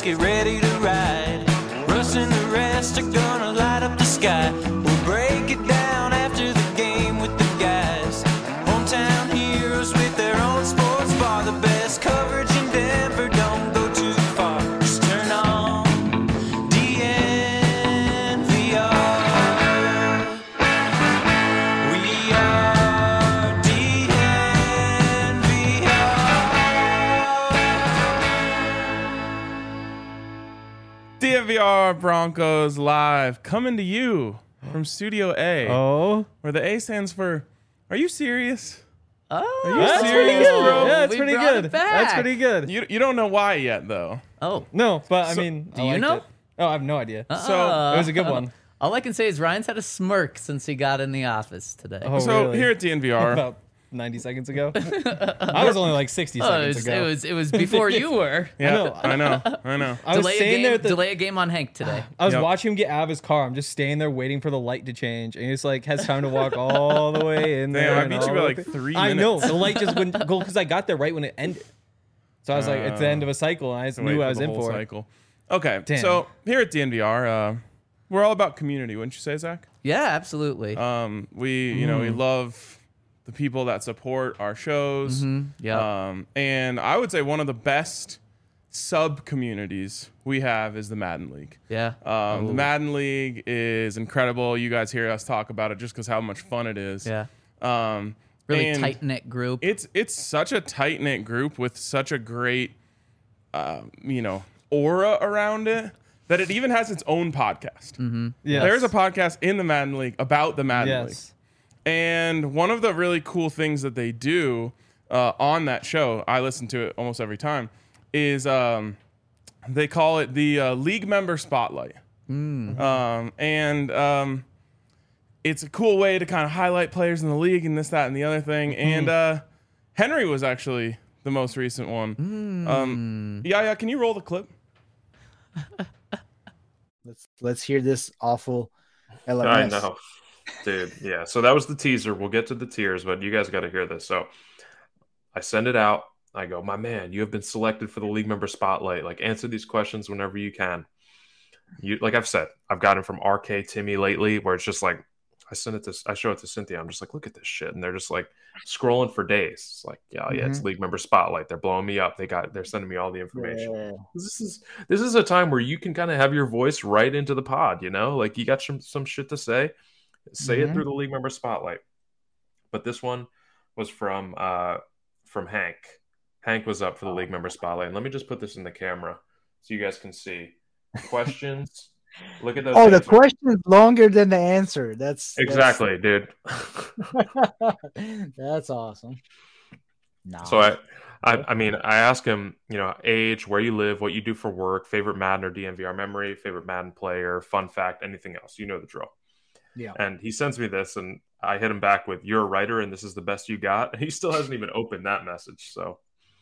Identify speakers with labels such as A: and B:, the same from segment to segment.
A: get ready to ride. Russ and the rest are gonna light up the sky. We'll break it down after the game with the guys. Hometown heroes with their own sports bar. The best coverage in Denver, don't go too far. Just turn on DNVR. We are
B: DNVR Broncos Live, coming to you from Studio A.
C: Oh,
B: where the A stands for, are you serious?
D: Oh,
B: Are you
C: that's
B: serious,
C: pretty good.
B: bro?
C: Yeah, that's
D: We
C: pretty
D: brought
C: good.
D: it back.
C: That's pretty good.
B: You don't know why yet, though.
D: Oh,
C: No, but I
B: So-
C: mean,
D: do
C: I
D: you
C: liked
D: know?
C: it. Oh, I have no idea.
B: So-
C: It was a good one.
D: All I can say is Ryan's had a smirk since he got in the office today.
C: Oh,
B: So
C: really?
B: here at DNVR,
C: About 90 seconds ago. I was only like 60
D: Oh,
C: seconds ago.
D: it was before you were.
B: yeah,
C: I
B: I know.
C: I was staying there. At the,
D: Delay a game on Hank today.
C: I was
B: Yep.
C: watching him get out of his car. I'm just staying there waiting for the light to change, and he just like has time to walk all the way in there.
B: Damn, I
C: and
B: beat you
C: all
B: by
C: the
B: like
C: way-
B: 3
C: I
B: minutes.
C: know the light just wouldn't go because I got there right when it ended. So I was like, it's the end of a cycle, and I just
B: Wait
C: knew
B: for
C: I was
B: the
C: in
B: whole
C: for it.
B: cycle. Okay,
C: Damn.
B: so here at DNVR, we're all about community, wouldn't you say, Zach?
D: Yeah, absolutely.
B: We love the people that support our shows.
D: Yeah.
B: And I would say one of the best sub communities we have is the Madden League.
D: Yeah.
B: The Madden League is incredible. You guys hear us talk about it just because how much fun it is.
D: Yeah.
B: Um,
D: Really
B: and
D: tight knit group.
B: It's such a tight knit group with such a great, aura around it that it even has its own podcast.
C: Yes.
B: There's a podcast in the Madden League about the Madden League.
C: Yes.
B: And one of the really cool things that they do on that show, I listen to it almost every time, is they call it the League Member Spotlight. It's a cool way to kind of highlight players in the league and this, that, and the other thing. And Henry was actually the most recent one. Yeah, can you roll the clip?
E: Let's hear this awful LMS.
F: I know, dude. Yeah. So that was the teaser. We'll get to the tears, but you guys got to hear this. So I send it out. I go, my man, you have been selected for the League Member Spotlight. Like, answer these questions whenever you can. Like I've said, I've gotten from RK Timmy lately, where it's just like I show it to Cynthia. I'm just like, look at this shit, and they're just like scrolling for days. It's like, yeah, it's League Member Spotlight. They're blowing me up. They're sending me all the information.
E: Yeah.
F: This is a time where you can kind of have your voice right into the pod, like you got some shit to say it through the League Member Spotlight. But this one was from Hank. Hank was up for the League Member Spotlight. And let me just put this in the camera so you guys can see questions. Look at those.
E: Oh, the
F: answers.
E: question is longer than the answer. That's
F: Exactly, dude.
E: That's awesome. No.
F: So I mean, I ask him, age, where you live, what you do for work, favorite Madden or DNVR memory, favorite Madden player, fun fact, anything else. You know the drill.
E: Yeah.
F: And he sends me this, and I hit him back with, "You're a writer, and this is the best you got." And he still hasn't even opened that message. So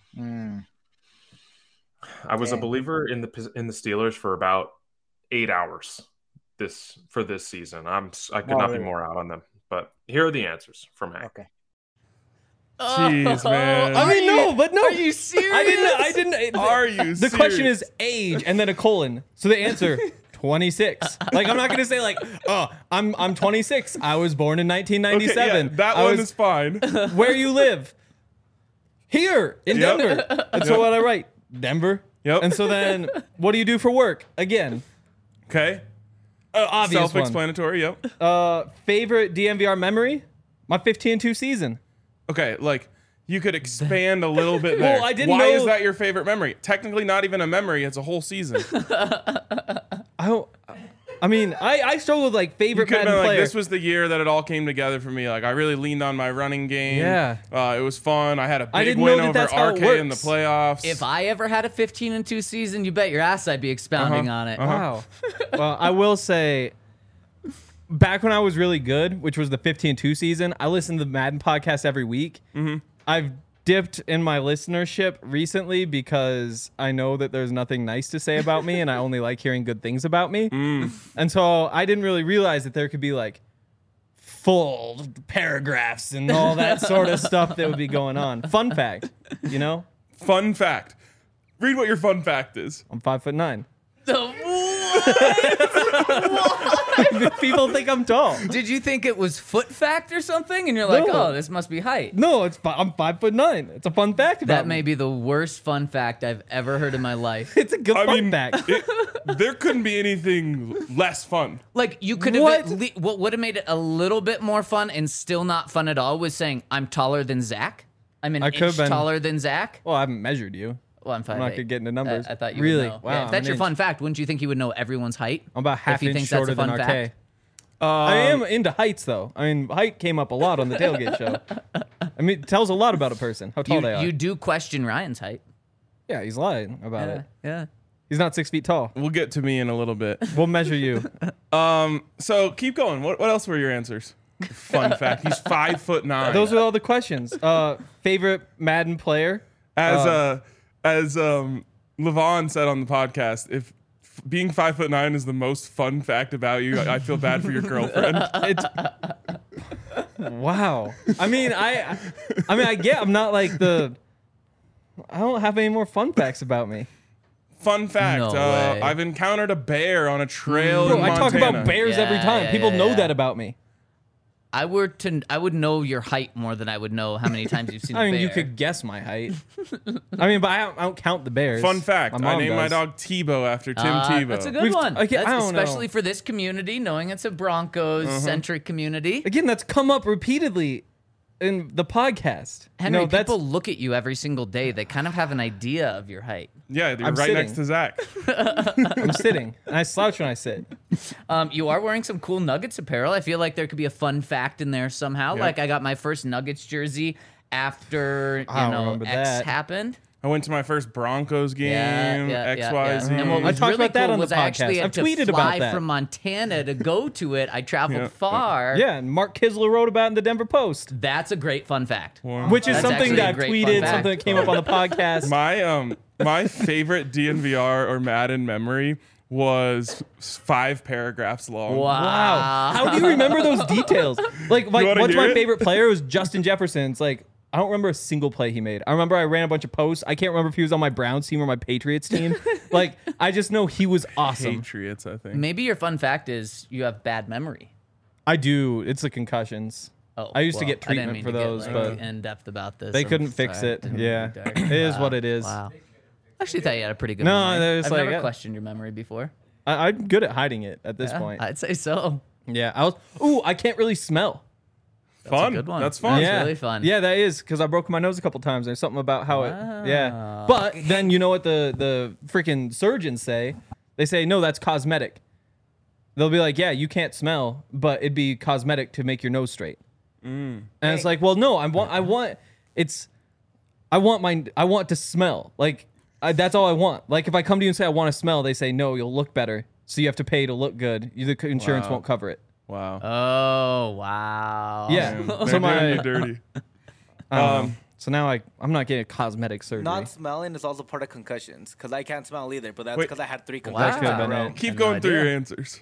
F: I was a believer in the Steelers for about 8 hours for this season. I could not be more out on them. But here are the answers from Hank.
E: Okay.
B: Jeez, man.
C: I mean, no.
D: Are you serious?
C: I didn't.
B: Are you
C: The question
B: serious?
C: is age and then a colon. So the answer 26. Like I'm not gonna say like, oh, I'm 26. I was born in 1997.
B: Okay, yeah, that one is fine.
C: Where you live? Here in
B: Yep.
C: Denver. And so what I write, Denver.
B: Yep.
C: And so then, what do you do for work? Again,
B: Okay.
C: obvious one.
B: Self-explanatory, yep.
C: Favorite DNVR memory? My 15-2 season.
B: Okay, like you could expand a little bit there.
C: Well, I didn't
B: Why
C: know-
B: is that your favorite memory? Technically not even a memory, it's a whole season.
C: I struggle with like
B: You
C: favorite
B: could have
C: Madden
B: been like,
C: player.
B: this was the year that it all came together for me. Like I really leaned on my running game.
C: Yeah.
B: It was fun. I had a
C: I
B: big
C: didn't
B: win
C: know that
B: over
C: that's how it
B: RK in the
C: works.
B: playoffs.
D: If I ever had a 15-2 season, you bet your ass I'd be expounding on it.
C: Wow. Well, I will say, back when I was really good, which was the 15-2 season, I listened to the Madden podcast every week. I've dipped in my listenership recently because I know that there's nothing nice to say about me and I only like hearing good things about me. And so I didn't really realize that there could be like full paragraphs and all that sort of stuff that would be going on. Fun fact,
B: Fun fact. Read what your fun fact is.
C: I'm 5'9".
D: What?
C: People think I'm tall.
D: Did you think it was foot fact or something? And you're like,
C: No.
D: oh, this must be height.
C: No, I'm 5'9". It's a fun fact about
D: That
C: me.
D: may be the worst fun fact I've ever heard in my life.
C: It's a good
B: I
C: fun
B: mean,
C: fact.
B: there couldn't be anything less fun.
D: Like you could have what would have made it a little bit more fun and still not fun at all was saying I'm taller than Zach. I'm an
C: I could've
D: inch
C: been.
D: taller than Zach.
C: Well, I haven't measured you.
D: Well, I'm 5'8".
C: I'm not gonna get into numbers.
D: I thought you
C: Really?
D: would know.
C: Wow,
D: Yeah, if
C: I'm
D: that's
C: an
D: your fun
C: inch.
D: fact, wouldn't you think he would know everyone's height?
C: I'm about half
D: he
C: inch
D: thinks that's
C: shorter
D: a fun
C: than RK.
D: fact.
C: I am into heights, though. I mean, height came up a lot on the tailgate show. I mean, it tells a lot about a person, how tall they are.
D: You do question Ryan's height.
C: Yeah, he's lying about it.
D: Yeah.
C: He's not 6 feet tall.
B: We'll get to me in a little bit.
C: We'll measure you.
B: So keep going. What else were your answers? Fun fact. He's 5'9".
C: Those are all the questions. Favorite Madden player?
B: As Levon said on the podcast, if being 5'9" is the most fun fact about you, I feel bad for your girlfriend.
C: It's wow. I mean, I'm not like the. I don't have any more fun facts about me.
B: Fun fact.
D: No way.
B: I've encountered a bear on a trail
C: Bro,
B: in
C: I
B: Montana.
C: talk about bears every
D: Yeah,
C: time.
D: yeah,
C: People
D: yeah,
C: know
D: yeah.
C: that about me.
D: I would know your height more than I would know how many times you've seen a
C: I mean,
D: bear.
C: you could guess my height. I mean, but I don't count the bears.
B: Fun fact. I
C: mom
B: named my
C: does.
B: dog Tebow after Tim Tebow.
D: That's a good
C: We've-
D: one.
C: okay, I
D: That's
C: don't know.
D: especially for this community, knowing it's a Broncos-centric community.
C: Again, that's come up repeatedly in the podcast.
D: Henry,
C: no, that's
D: people look at you every single day. They kind of have an idea of your height.
B: Yeah, you're
C: I'm
B: right
C: sitting.
B: next to Zach.
C: I'm sitting and I slouch when I sit.
D: You are wearing some cool Nuggets apparel. I feel like there could be a fun fact in there somehow.
B: Yeah.
D: Like I got my first Nuggets jersey after
C: I don't
D: X
C: remember that.
D: happened.
B: I went to my first Broncos game.
D: Yeah.
B: XYZ.
D: And what
C: I
D: was
C: talked
D: really
C: about that
D: cool
C: on the
D: was I actually
C: podcast.
D: had
C: I've
D: to
C: tweeted
D: fly
C: about that.
D: from Montana to go to it. I traveled
B: Yeah.
D: far.
C: Yeah, and Mark Kisler wrote about it in the Denver Post,
D: That's a great fun fact.
C: which is
D: That's
C: something
D: actually
C: that
D: a
C: I've
D: great fun
C: tweeted,
D: fact.
C: something that came up on the podcast.
B: My favorite DNVR or Madden memory was 5 paragraphs long.
C: Wow. How do you remember those details? Like
B: wanna
C: what's
B: hear
C: my
B: it?
C: favorite player was Justin Jefferson. It's like, I don't remember a single play he made. I remember I ran a bunch of posts. I can't remember if he was on my Browns team or my Patriots team. Like, I just know he was awesome.
B: Patriots, I think.
D: Maybe your fun fact is you have bad memory.
C: I do. It's the concussions.
D: Oh,
C: I used to
D: well,
C: get
D: I didn't
C: treatment
D: mean
C: for
D: to get,
C: those,
D: like,
C: but
D: in depth about this.
C: they
D: I'm
C: couldn't fix
D: sorry.
C: it.
D: Didn't
C: Yeah.
D: mean to be dark.
C: It is what it is.
D: Wow. I actually thought you had a pretty good
C: No,
D: memory.
C: there's
D: I've
C: like-
D: never questioned your memory before.
C: I'm good at hiding it at this
D: Yeah,
C: point.
D: I'd say so.
C: Yeah. I can't really smell.
B: Fun.
D: good one.
B: That's fun.
D: That's
C: Yeah.
D: really fun.
C: Yeah, that is because I broke my nose a couple times. There's something about how yeah.
D: Wow.
C: But then you know what the freaking surgeons say? They say no, that's cosmetic. They'll be like, yeah, you can't smell, but it'd be cosmetic to make your nose straight. And it's like, well, no, I want to smell. Like that's all I want. Like if I come to you and say I want to smell, they say no, you'll look better. So you have to pay to look good. The insurance
B: Wow.
C: won't cover it.
B: Wow.
D: Oh, wow.
C: Yeah.
B: Damn,
C: So
B: they're
C: my-
B: doing you dirty.
C: So now I'm not getting a cosmetic surgery.
G: Not smelling is also part of concussions because I can't smell either, but that's
B: Wait.
G: because I had 3
D: Wow.
G: concussions
C: could've
G: in a
C: been
G: row.
C: it.
B: Keep
D: no
B: going through
D: idea.
B: your answers.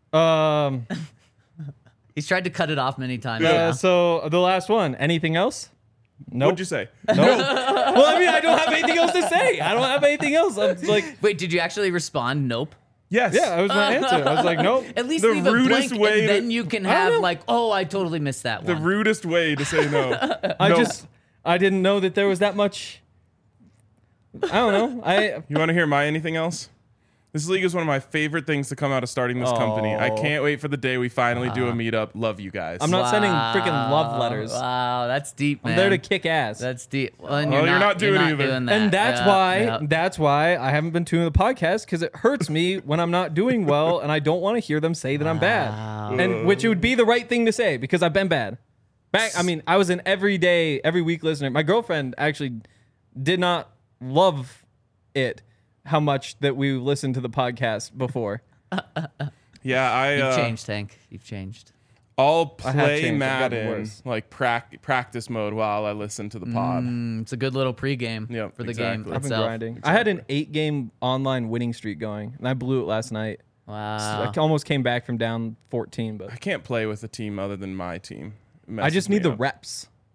D: He's tried to cut it off many times.
B: Yeah.
D: now.
C: So the last one. Anything else? Nope.
B: What'd you say?
C: Well, I mean, I don't have anything else to say. I don't have anything else. I'm like,
D: Wait, did you actually respond? Nope.
B: Yes.
C: yeah, that was my answer. I was like, nope.
D: At least
B: The
D: leave a
B: rudest
D: blank,
B: way
D: and
B: to-
D: then you can
C: I don't
D: have
C: know.
D: like, oh, I totally missed that
B: The
D: one.
B: rudest way to say no.
C: I
B: Nope.
C: I didn't know that there was that much. I don't know.
B: You want to hear my anything else? This league is one of my favorite things to come out of starting this company. I
C: Oh.
B: can't wait for the day we finally do a meetup. Love you guys.
C: I'm not sending freaking love letters.
D: Wow, that's deep, man.
C: I'm there to kick ass.
D: That's deep. Well, and
B: Well, you're not doing
D: you're
B: either.
D: doing that.
C: And that's
D: Yeah, yeah.
C: that's why I haven't been tuning the podcast because it hurts me when I'm not doing well and I don't want to hear them say that I'm bad. And which it would be the right thing to say because I've been bad. I was an every week listener. My girlfriend actually did not love it how much that we listened to the podcast before.
B: Yeah,
D: You've changed, Tank. You've changed.
B: I'll
C: I have
B: play
C: changed. I've gotten
B: Madden
C: worse.
B: like practice mode while I listen to the pod.
D: It's a good little pregame
B: Yep,
D: for the
B: exactly.
D: game
C: I've been
D: itself.
C: grinding. I had an 8-game online winning streak going, and I blew it last night.
D: Wow.
C: I almost came back from down 14, but
B: I can't play with a team other than my team. It
C: I just
B: messes
C: need
B: me
C: the
B: up.
C: reps.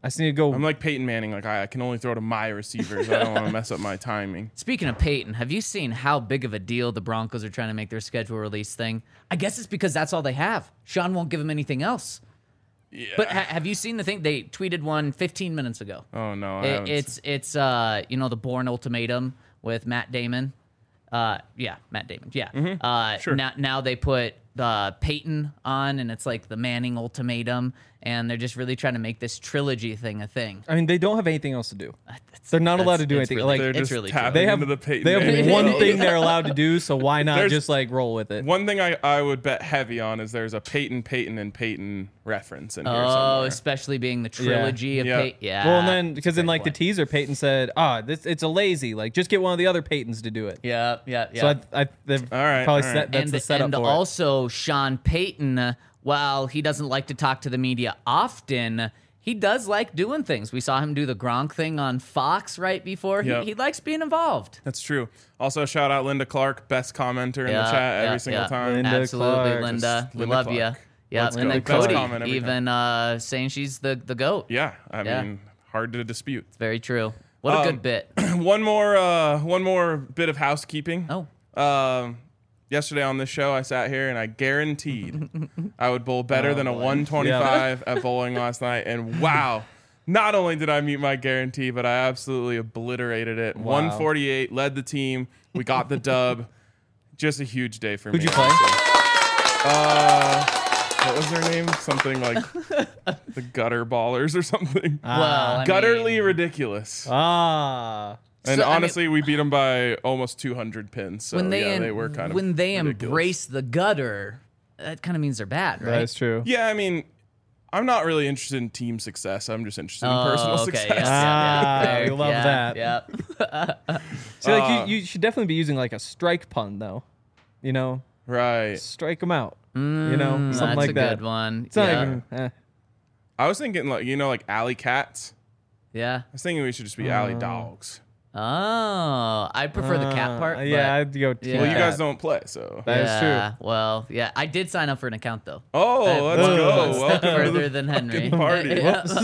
C: I just need to go.
B: I'm like Peyton Manning. Like I can only throw to my receivers. I don't want to mess up my timing.
D: Speaking of Peyton, have you seen how big of a deal the Broncos are trying to make their schedule release thing? I guess it's because that's all they have. Sean won't give him anything else.
B: Yeah.
D: But have you seen the thing? They tweeted one 15 minutes ago.
B: Oh no, I haven't
D: It's the Bourne Ultimatum with Matt Damon. Yeah, Matt Damon. Yeah.
B: Sure.
D: Now they put Peyton on, and it's like the Manning Ultimatum, and they're just really trying to make this trilogy thing a thing.
C: I mean, they don't have anything else to do. They're not allowed to do anything.
D: Really,
C: Like
B: They're
D: it's
B: just
D: really
B: tapping
D: true.
C: they have
B: into the Peyton
C: they
B: Manning
C: have one
B: world.
C: thing they're allowed to do, so why not
B: There's-
C: just like roll with it?
B: One thing I would bet heavy on is there's a Peyton, and Peyton reference in here
D: Oh,
B: somewhere.
D: especially being the trilogy of
B: Yeah.
D: Peyton. Yeah.
C: Well, and then because in
D: Great
C: like the
D: point.
C: teaser, Peyton said, it's a lazy. Like just get one of the other Peytons to do it.
D: Yeah.
C: So they've
B: right,
C: probably
B: all right.
C: set that's
D: and
C: the setup
D: and
C: for it.
D: also Sean Payton, while he doesn't like to talk to the media often, he does like doing things. We saw him do the Gronk thing on Fox right before.
B: Yep.
D: He likes being involved.
B: That's true. Also, shout out Linda Clark, best commenter in
D: Yeah,
B: the chat every
D: yeah,
B: single
D: yeah.
B: time.
C: Linda
D: Absolutely,
C: Clark.
D: Linda.
B: Just
D: We
B: Linda
D: love you.
B: Clark.
D: Yeah,
B: Let's
D: and
B: go.
D: then
B: Best
D: Cody
B: comment every
D: even saying she's the goat.
B: Yeah, I
D: Yeah.
B: mean, hard to dispute.
D: Very true. What a good bit.
B: one more bit of housekeeping.
D: Oh.
B: Yesterday on this show, I sat here and I guaranteed I would bowl better than a
D: boy.
B: 125 at bowling last night. And wow, not only did I meet my guarantee, but I absolutely obliterated it. 148, led the team. We got the dub. Just a huge day for me.
C: Who'd you play?
B: What was their name? Something like the Gutter Ballers or something.
D: Well, I
B: Gutterly
D: mean,
B: ridiculous.
C: Ah.
B: And
D: So, I mean-
B: honestly, we beat them by almost 200 pins. So
D: when they
B: they were kind of
D: when they
B: ridiculous.
D: embrace the gutter, that kind of means they're bad, right?
C: That is true.
B: Yeah, I mean, I'm not really interested in team success. I'm just interested in
D: Oh,
B: personal
D: okay,
B: success.
C: Ah,
D: fair.
C: we love
D: Yeah,
C: that.
D: Yeah.
C: So like you should definitely be using like a strike pun though. You know,
B: Right.
C: strike them out. You know, something
D: That's
C: like
D: a
C: that.
D: good one.
C: It's not
D: yeah.
C: even.
B: I was thinking like alley cats.
D: Yeah.
B: I was thinking we should just be alley dogs.
D: Oh, I prefer the cat part.
C: Yeah,
D: but-
C: I'd go. team
B: Well, you
C: cat.
B: guys don't play, so.
C: That is
D: yeah, well, yeah, I did sign up for an account though.
B: Oh, let's
D: One
B: go.
D: step
B: Welcome to
D: further
B: the
D: than Henry.
B: fucking party.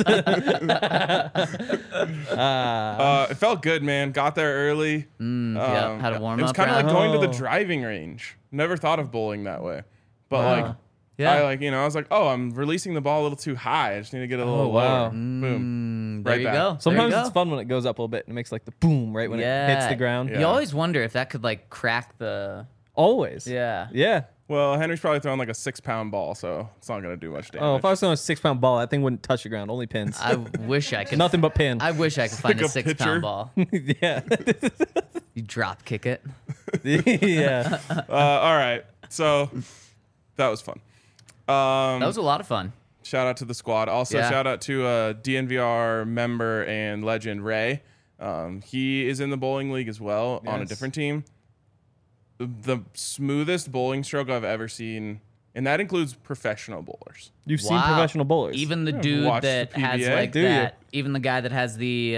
D: Yeah.
B: It felt good, man. Got there early.
D: Yeah, had a warm
B: It was
D: up
B: kind of
D: round.
B: like going to the
C: Oh.
B: driving range. Never thought of bowling that way, but
D: Wow.
B: like,
D: Yeah.
B: I was like, oh, I'm releasing the ball a little too high. I just need to get a little
C: wow.
B: lower. Boom.
D: There
B: Right
D: you
B: back.
D: go.
C: Sometimes
D: there you
C: it's
D: go.
C: fun when it goes up a little bit and it makes like the boom right when it hits the ground.
B: Yeah.
D: You always wonder if that could like crack the.
C: Always.
D: Yeah.
C: Yeah.
B: Well, Henry's probably throwing like a 6-pound ball, so it's not gonna do much damage.
C: Oh, if I was throwing a 6-pound ball, that thing wouldn't touch the ground. Only pins.
D: I wish I could.
C: Nothing but pin.
D: I wish I could find
B: like
D: a
B: a pitcher.
D: 6-pound ball.
C: yeah.
D: You drop kick it.
C: yeah.
B: All right, so that was fun.
D: That was a lot of fun.
B: Shout out to the squad. Also,
D: Yeah.
B: shout out to DNVR member and legend Ray. He is in the bowling league as well on a
C: Yes.
B: different team. The smoothest bowling stroke I've ever seen, and that includes professional bowlers.
C: You've seen
D: Wow.
C: professional bowlers.
D: Even the dude
B: watched
D: that
B: the
D: has
B: PBA.
D: like
C: Do you?
D: that. Even the guy that has the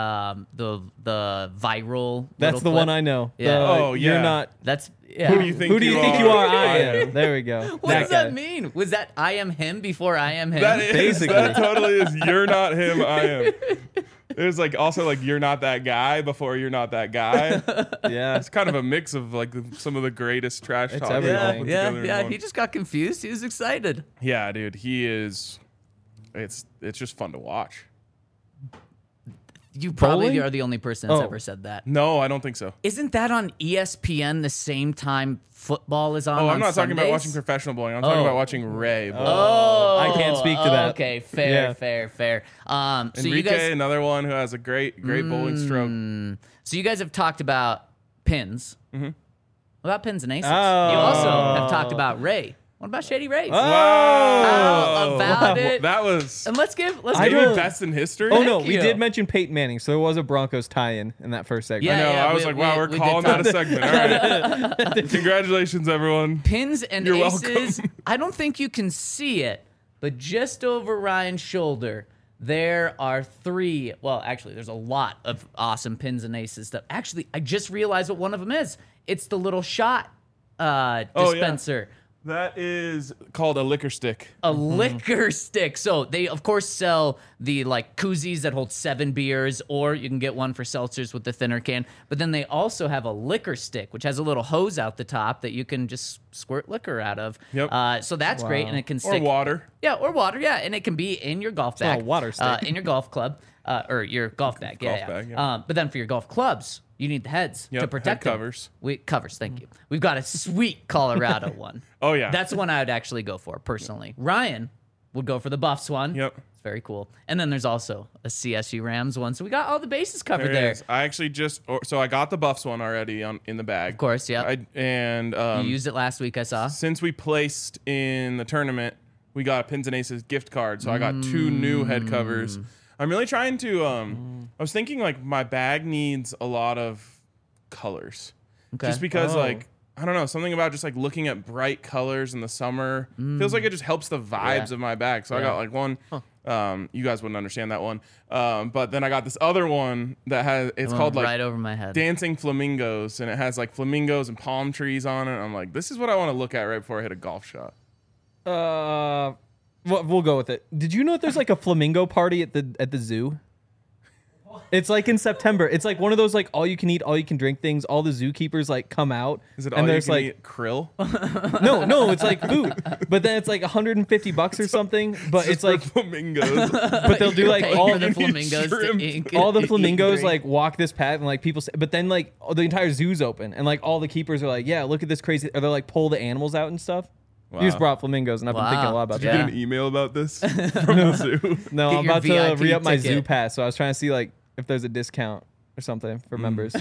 D: viral.
C: That's
D: little
C: the one
D: clip.
C: I know.
D: Yeah.
B: Oh,
C: You're
B: yeah.
C: not.
D: That's yeah.
B: Who do you think
C: Who do you think you are? I am. There we go.
D: What does
C: guy.
D: that mean? Was that I am him before I am him?
B: That is
C: Basically.
B: that totally is. You're not him. I am. It's like also like you're not that guy before you're not that guy.
C: Yeah.
B: It's kind of a mix of like some of the greatest trash talk.
C: everything.
B: all
D: yeah,
B: put
D: yeah,
B: together in
D: yeah.
B: one.
D: He just got confused. He was excited.
B: Yeah, dude, he is. It's just fun to watch.
D: You probably
C: Bowling?
D: are the only person that's
C: Oh.
D: ever said that.
B: No, I don't think so.
D: Isn't that on ESPN the same time football is on?
B: Oh,
D: on
B: I'm not talking about
D: Sundays?
B: watching professional bowling. I'm talking
D: Oh.
B: about watching Ray bowl.
D: Oh,
C: I can't speak to that.
D: Okay, fair,
C: Yeah.
D: fair. So
B: Enrique,
D: you guys,
B: another one who has a great bowling stroke.
D: so you guys have talked about pins. Mm-hmm. What about pins and aces?
C: Oh.
D: You also have talked about Ray. What about Shady Rays?
C: Oh.
D: How about it?
B: That was
D: And let's give
B: maybe
C: don't-
B: best in history.
C: Oh no,
D: Thank
C: we
D: you.
C: did mention Peyton Manning, so there was a Broncos tie-in in that first segment.
D: Yeah,
B: I know.
D: yeah,
B: I was
D: we-
B: like, wow,
D: we-
B: we're
D: we did
B: calling
D: talk-
B: that a segment. All right. Congratulations, everyone.
D: Pins and
B: You're
D: aces.
B: welcome.
D: I don't think you can see it, but just over Ryan's shoulder, there are 3. Well, actually, there's a lot of awesome pins and aces stuff. Actually, I just realized what one of them is. It's the little shot
B: yeah.
D: dispenser.
B: That is called a liquor stick.
D: A liquor stick. So they, of course, sell the like koozies that hold 7 beers, or you can get one for seltzers with the thinner can. But then they also have a liquor stick, which has a little hose out the top that you can just squirt liquor out of.
B: Yep.
D: So that's great, and it can stick.
B: Or water.
D: Yeah, or water. Yeah, and it can be in your golf bag.
C: not a water stick.
D: In your golf club, or your golf bag.
B: Golf bag, yeah.
D: But then for your golf clubs, you need the heads
B: Yep,
D: to protect
B: head
D: them.
B: covers.
D: Covers, thank you. We've got a sweet Colorado one.
B: Oh, yeah.
D: That's the one I would actually go for, personally. Ryan would go for the Buffs one.
B: Yep.
D: It's very cool. And then there's also a CSU Rams one. So we got all the bases covered
B: There it
D: there.
B: is. I actually so I got the Buffs one already in the bag.
D: Of course, yeah.
B: And
D: You used it last week, I saw.
B: since we placed in the tournament, we got a Pins and Aces gift card. So I got 2 new head covers. I'm really trying to. I was thinking like my bag needs a lot of colors,
D: Okay.
B: just because like I don't know, something about just like looking at bright colors in the summer feels like it just helps the vibes
D: Yeah.
B: of my bag. So I
D: Yeah.
B: got like one. You guys wouldn't understand that one, but then I got this other one that it's
D: Went
B: called like
D: right over my head.
B: Dancing Flamingos, and it has like flamingos and palm trees on it. I'm like, this is what I want to look at right before I hit a golf shot.
C: We'll go with it. Did you know that there's like a flamingo party at the zoo? It's like in September. It's like one of those like all you can eat, all you can drink things. All the zookeepers like come out.
B: Is it
C: and
B: all you
C: there's
B: can
C: like
B: eat krill?
C: no, it's like food. But then it's like $150 or something. But it's like
B: flamingos.
C: but they'll do like
D: Paying
C: all
D: for the flamingos to
B: shrimp.
D: ink.
C: all the
D: eat
C: flamingos
D: drink.
C: like walk this path and like people say, but then like the entire zoo's open and like all the keepers are like, yeah, look at this crazy, or they're like pull the animals out and stuff. You just
B: Wow.
C: brought flamingos, and I've been thinking a lot about
B: Did you
C: that.
B: get an email about this from the zoo?
C: No,
D: Get
C: I'm
D: your
C: about to
D: VIP
C: re-up my zoo
D: ticket.
C: pass, so I was trying to see like if there's a discount or something for members.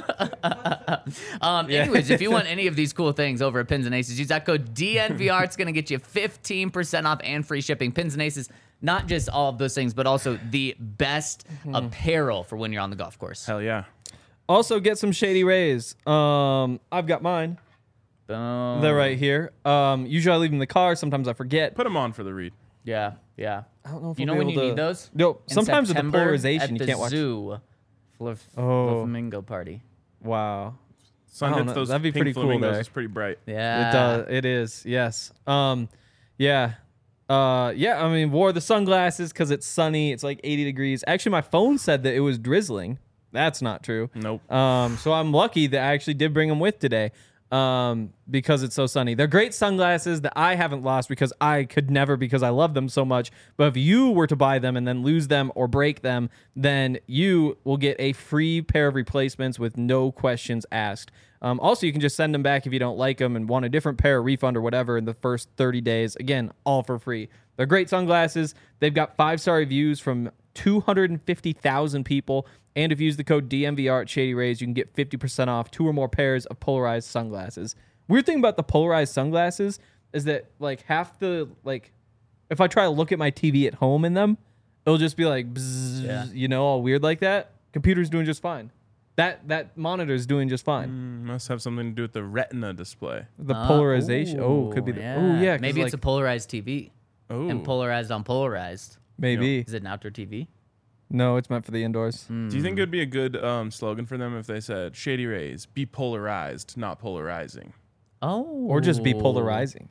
D: Anyways, if you want any of these cool things over at Pins and Aces, use that code DNVR. It's going to get you 15% off and free shipping. Pins and Aces, not just all of those things, but also the best apparel for when you're on the golf course.
B: Hell yeah.
C: Also, get some Shady Rays. I've got mine.
D: Boom.
C: They're right here. Usually I leave them in the car. Sometimes I forget.
B: Put them on for the read.
D: Yeah, yeah.
C: I don't know if
D: You
C: I'll
D: know
C: be
D: when you
C: able
D: need
C: to-
D: those?
C: No,
D: In
C: sometimes with the
D: September
C: polarization,
D: at
C: you can't watch.
D: Zoo.
C: Oh.
D: Flamingo party.
C: Wow.
B: Sun
C: I don't
B: hits
C: know.
B: those
C: That'd be
B: pink
C: pretty cool
B: flamingos.
C: there.
B: It's pretty bright.
D: Yeah.
C: It does. It is. Yes. Yeah. Yeah. I mean, wore the sunglasses because it's sunny. It's like 80 degrees. Actually, my phone said that it was drizzling. That's not true.
B: Nope.
C: So I'm lucky that I actually did bring them with today. Because it's so sunny. They're great sunglasses that I haven't lost because I could never, because I love them so much. But if you were to buy them and then lose them or break them, then you will get a free pair of replacements with no questions asked. Also, you can just send them back if you don't like them and want a different pair, refund or whatever in the first 30 days. Again, all for free. They're great sunglasses. They've got 5-star reviews from 250,000 people. And if you use the code DMVR at Shady Rays, you can get 50% off 2 or more pairs of polarized sunglasses. Weird thing about the polarized sunglasses is that like half the like, if I try to look at my TV at home in them, it'll just be like, bzzz, you know, all weird like that. Computer's doing just fine. That monitor's doing just fine.
B: Must have something to do with the retina display.
C: The polarization. Could be the. Yeah.
D: Maybe it's a polarized TV.
B: Oh.
D: And polarized on polarized.
C: maybe.
D: Is it an outdoor TV?
C: No, it's meant for the indoors.
B: Do you think it would be a good slogan for them if they said, Shady Rays, be polarized, not polarizing?
D: Oh.
C: Or just be polarizing.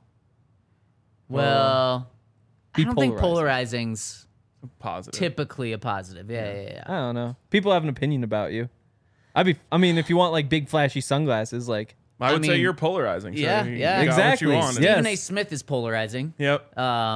D: Well,
C: Be
D: I don't think
C: polarizing.
D: polarizing's
B: Positive.
D: typically a positive. Yeah.
C: I don't know. People have an opinion about you. I mean, if you want like big flashy sunglasses, like
B: I would say
D: mean,
B: you're polarizing. So
D: yeah,
B: you
D: yeah.
B: got
C: Exactly.
B: What you want.
C: Yeah.
D: Stephen A.
C: Yes.
D: Smith is polarizing.
B: Yep.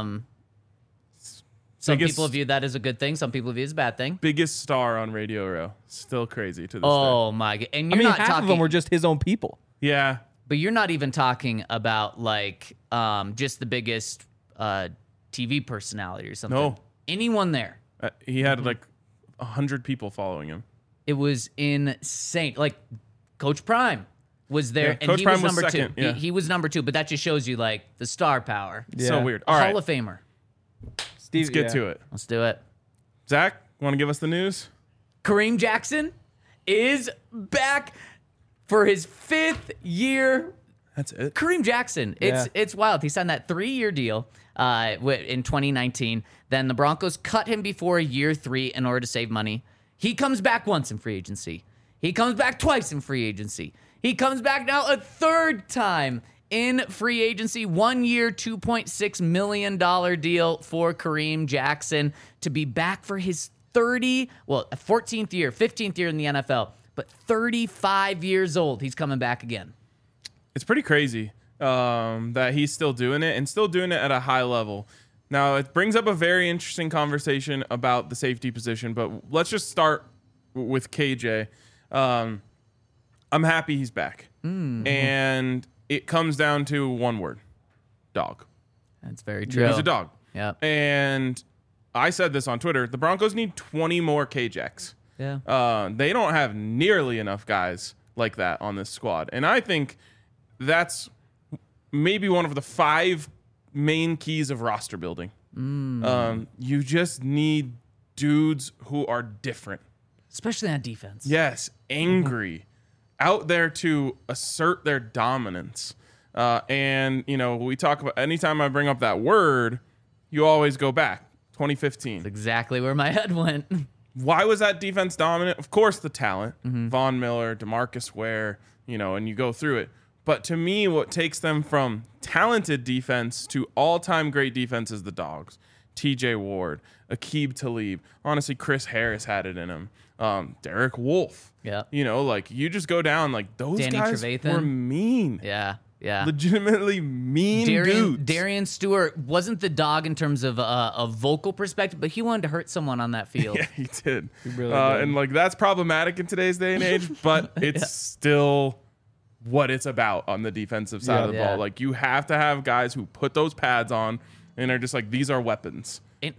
D: Some
B: Biggest-
D: people view that as a good thing. Some people view it as a bad thing.
B: Biggest star on Radio Row. Still crazy to this
D: Oh my god! And
C: I
D: you're
C: mean,
D: not
C: half
D: talking,
C: of them were just his own people.
B: day. Yeah.
D: but you're not even talking about like just the biggest TV personality or something.
B: No.
D: Anyone there?
B: He had like 100 people following him.
D: It was insane. Like Coach Prime was there,
B: Yeah,
D: and
B: Coach
D: he
B: Prime
D: was
B: was
D: number
B: second,
D: 2.
B: yeah.
D: He was number 2, but that just shows you like the star power.
B: So
C: Yeah.
B: weird. All
D: Hall
B: right.
D: of Famer.
C: Steve,
B: Let's get to it.
D: Let's do it.
B: Zach, want to give us the news?
D: Kareem Jackson is back for his 5th year.
B: That's it.
D: Kareem Jackson, it's wild. He signed that 3-year deal in 2019. Then the Broncos cut him before year 3 in order to save money. He comes back once in free agency. He comes back twice in free agency. He comes back now a 3rd time in free agency. 1 year, $2.6 million deal for Kareem Jackson to be back for his 14th year, 15th year in the NFL, but 35 years old. He's coming back again.
B: It's pretty crazy that he's still doing it and still doing it at a high level. Now, it brings up a very interesting conversation about the safety position, but let's just start with KJ. I'm happy he's back. And it comes down to one word: dog.
D: That's very true.
B: He's a dog.
D: Yeah.
B: And I said this on Twitter. The Broncos need 20 more KJs.
D: Yeah.
B: They don't have nearly enough guys like that on this squad. And I think that's maybe one of the 5 main keys of roster building. You just need dudes who are different.
D: Especially on defense.
B: Yes, angry, out there to assert their dominance. And, you know, we talk about, anytime I bring up that word, you always go back. 2015.
D: That's exactly where my head went.
B: Why was that defense dominant? Of course, the talent. Von Miller, DeMarcus Ware, you know, and you go through it. But to me, what takes them from talented defense to all-time great defense is the dogs. TJ Ward, Aqib Talib. Honestly, Chris Harris had it in him. Derek Wolfe.
D: Yeah.
B: You know, like, you just go down, like, those
D: Danny
B: guys
D: Trevathan.
B: were mean.
D: Yeah. Yeah.
B: Legitimately mean dudes.
D: Darian Stewart wasn't the dog in terms of a vocal perspective, but he wanted to hurt someone on that field.
B: Yeah, he did.
C: really did.
B: And, like, that's problematic in today's day and age, but it's still what it's about on the defensive side of the
D: Yeah.
B: ball. Like, you have to have guys who put those pads on and are just like, these are weapons.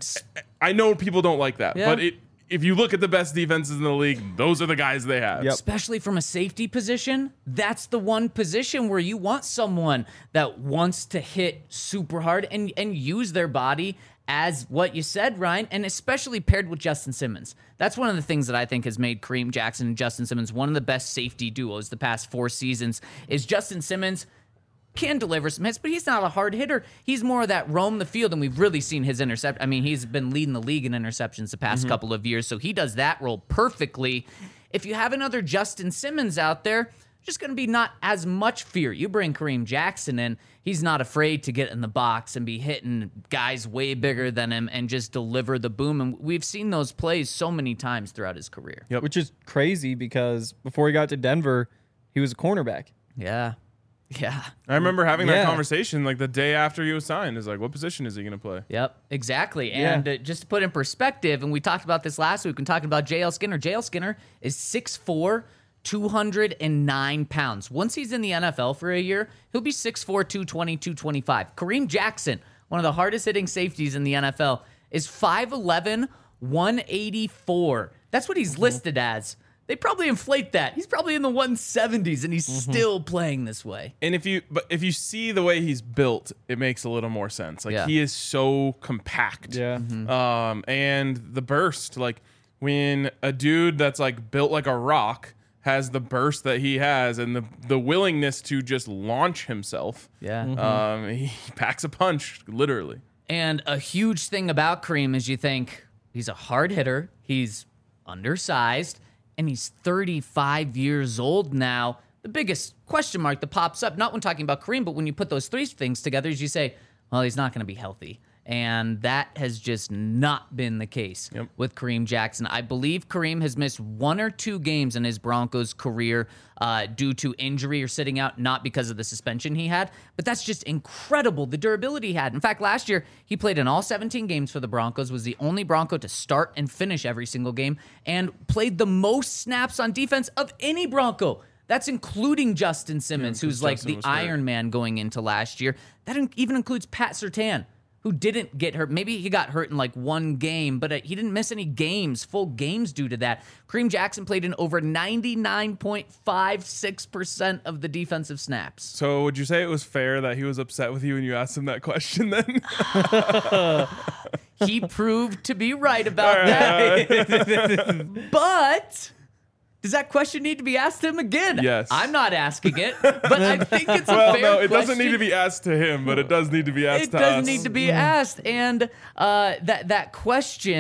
B: I know people don't like that,
D: Yeah.
B: but if you look at the best defenses in the league, those are the guys they have.
C: Yep.
D: Especially from a safety position, that's the one position where you want someone that wants to hit super hard and use their body as what you said, Ryan, and especially paired with Justin Simmons. That's one of the things that I think has made Kareem Jackson and Justin Simmons one of the best safety duos the past 4 seasons. Is Justin Simmons can deliver some hits, but he's not a hard hitter. He's more of that roam the field, and we've really seen his intercept. I mean, he's been leading the league in interceptions the past couple of years, so he does that role perfectly. If you have another Justin Simmons out there, just going to be not as much fear. You bring Kareem Jackson in, he's not afraid to get in the box and be hitting guys way bigger than him and just deliver the boom. And we've seen those plays so many times throughout his career.
C: Which is crazy because before he got to Denver, he was a cornerback.
D: Yeah. Yeah.
B: I remember having that
C: Yeah.
B: conversation like the day after he was signed. Is like, what position is he going to play?
D: Yep, exactly. And just to put in perspective, and we talked about this last week, when talking about JL Skinner. JL Skinner is 6'4", 209 pounds. Once he's in the NFL for a year, he'll be 6'4", 220, 225. Kareem Jackson, one of the hardest hitting safeties in the NFL, is 5'11", 184. That's what he's listed as. They probably inflate that. He's probably in the 170s, and he's still playing this way.
B: And if you see the way he's built, it makes a little more sense. Like, he is so compact.
C: Yeah.
B: And the burst, like, when a dude that's like built like a rock has the burst that he has and the willingness to just launch himself, he packs a punch, literally.
D: And a huge thing about Kareem is you think he's a hard hitter, he's undersized, and he's 35 years old now. The biggest question mark that pops up, not when talking about Kareem, but when you put those 3 things together, is you say, well, he's not going to be healthy. And that has just not been the case with Kareem Jackson. I believe Kareem has missed 1 or 2 games in his Broncos career due to injury or sitting out, not because of the suspension he had. But that's just incredible, the durability he had. In fact, last year, he played in all 17 games for the Broncos, was the only Bronco to start and finish every single game, and played the most snaps on defense of any Bronco. That's including Justin Simmons, who's like the Iron Man going into last year. That even includes Pat Surtain, who didn't get hurt. Maybe he got hurt in like 1 game, but he didn't miss any games, full games due to that. Kareem Jackson played in over 99.56% of the defensive snaps.
B: So would you say it was fair that he was upset with you when you asked him that question then?
D: He proved to be right about that. But does that question need to be asked to him again?
B: Yes.
D: I'm not asking it, but I think it's a fair question.
B: No, it doesn't need to be asked to him, but it does need to be asked to us.
D: It does need to be asked. And that question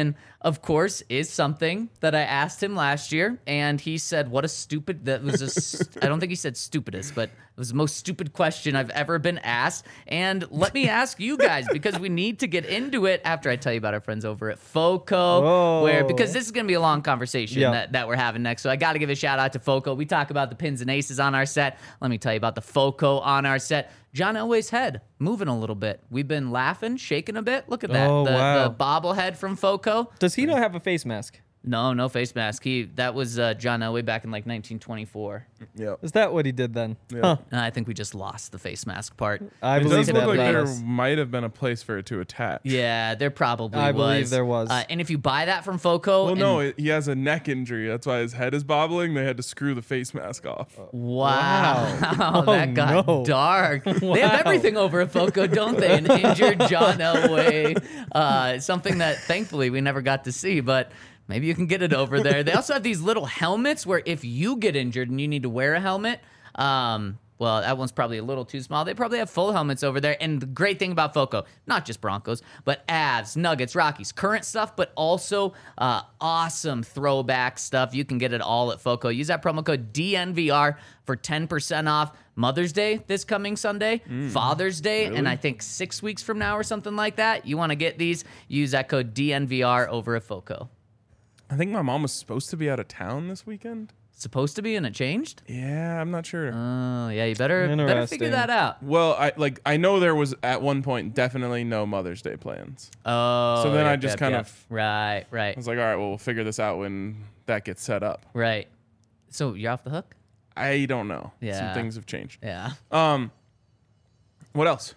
D: of course, is something that I asked him last year, and he said, "What a stupid." That was I don't think he said stupidest, but it was the most stupid question I've ever been asked. And let me ask you guys, because we need to get into it after I tell you about our friends over at FOCO, because this is going to be a long conversation that we're having next. So I got to give a shout out to FOCO. We talk about the pins and aces on our set. Let me tell you about the FOCO on our set. John Elway's head moving a little bit. We've been laughing, shaking a bit. Look at that. The bobblehead from FOCO.
C: Does he not have a face mask?
D: No face mask. That was John Elway back in like 1924.
B: Yeah.
C: Is that what he did then?
B: Yeah.
C: Huh.
D: I think we just lost the face mask part.
C: I
B: It
C: believe
B: does look like
C: that.
B: there might have been a place for it to attach.
D: Yeah, there probably
C: I
D: was.
C: believe there was.
D: And if you buy that from FOCO,
B: Well, no, he has a neck injury. That's why his head is bobbling. They had to screw the face mask off.
D: wow, that got
C: no.
D: dark. They have everything over at FOCO, don't they? An injured John Elway, something that thankfully we never got to see, but maybe you can get it over there. They also have these little helmets where if you get injured and you need to wear a helmet, well, that one's probably a little too small. They probably have full helmets over there. And the great thing about FOCO, not just Broncos, but Avs, Nuggets, Rockies, current stuff, but also awesome throwback stuff. You can get it all at FOCO. Use that promo code DNVR for 10% off. Mother's Day this coming Sunday, Father's Day, and I think 6 weeks from now or something like that. You want to get these, use that code DNVR over at FOCO.
B: I think my mom was supposed to be out of town this weekend.
D: Supposed to be, and it changed?
B: Yeah, I'm not sure.
D: Oh, yeah, you better figure
C: Interesting.
D: that out.
B: Well, I know there was at one point definitely no Mother's Day plans.
D: Oh,
B: So then I just kind of-
D: Right.
B: I was like, all right, well, we'll figure this out when that gets set up.
D: Right. So you're off the hook?
B: I don't know.
D: Yeah.
B: Some things have changed.
D: Yeah.
B: What else?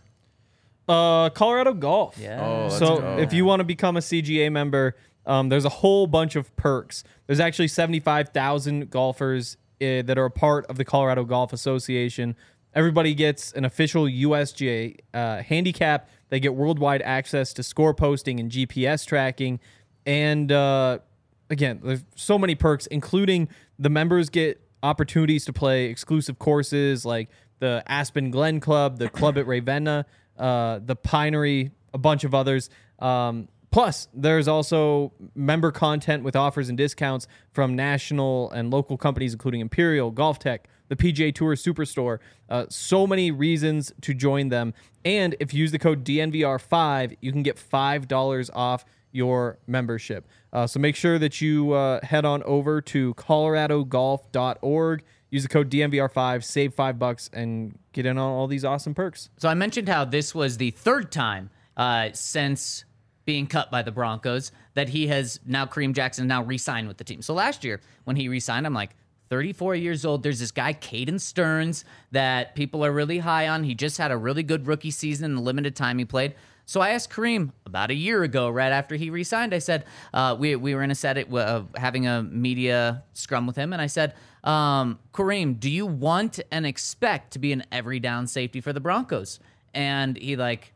C: Colorado Golf.
D: Yeah.
B: Oh, let's
C: So
B: go.
C: if you want to become a CGA member, there's a whole bunch of perks. There's actually 75,000 golfers that are a part of the Colorado Golf Association. Everybody gets an official USGA handicap. They get worldwide access to score posting and GPS tracking. And again, there's so many perks, including the members get opportunities to play exclusive courses like the Aspen Glen Club, the Club at Ravenna, the Pinery, a bunch of others. Plus, there's also member content with offers and discounts from national and local companies, including Imperial, Golf Tech, the PGA Tour Superstore. So many reasons to join them. And if you use the code DNVR5, you can get $5 off your membership. So make sure that you head on over to coloradogolf.org, use the code DNVR5, save $5, and get in on all these awesome perks.
D: So I mentioned how this was the third time since being cut by the Broncos that he has now, Kareem Jackson, now re-signed with the team. So last year when he re-signed, I'm like, 34 years old. There's this guy, Caden Stearns, that people are really high on. He just had a really good rookie season in the limited time he played. So I asked Kareem about a year ago, right after he re-signed, I said, we were in a set having a media scrum with him, and I said, Kareem, do you want and expect to be an every down safety for the Broncos? And he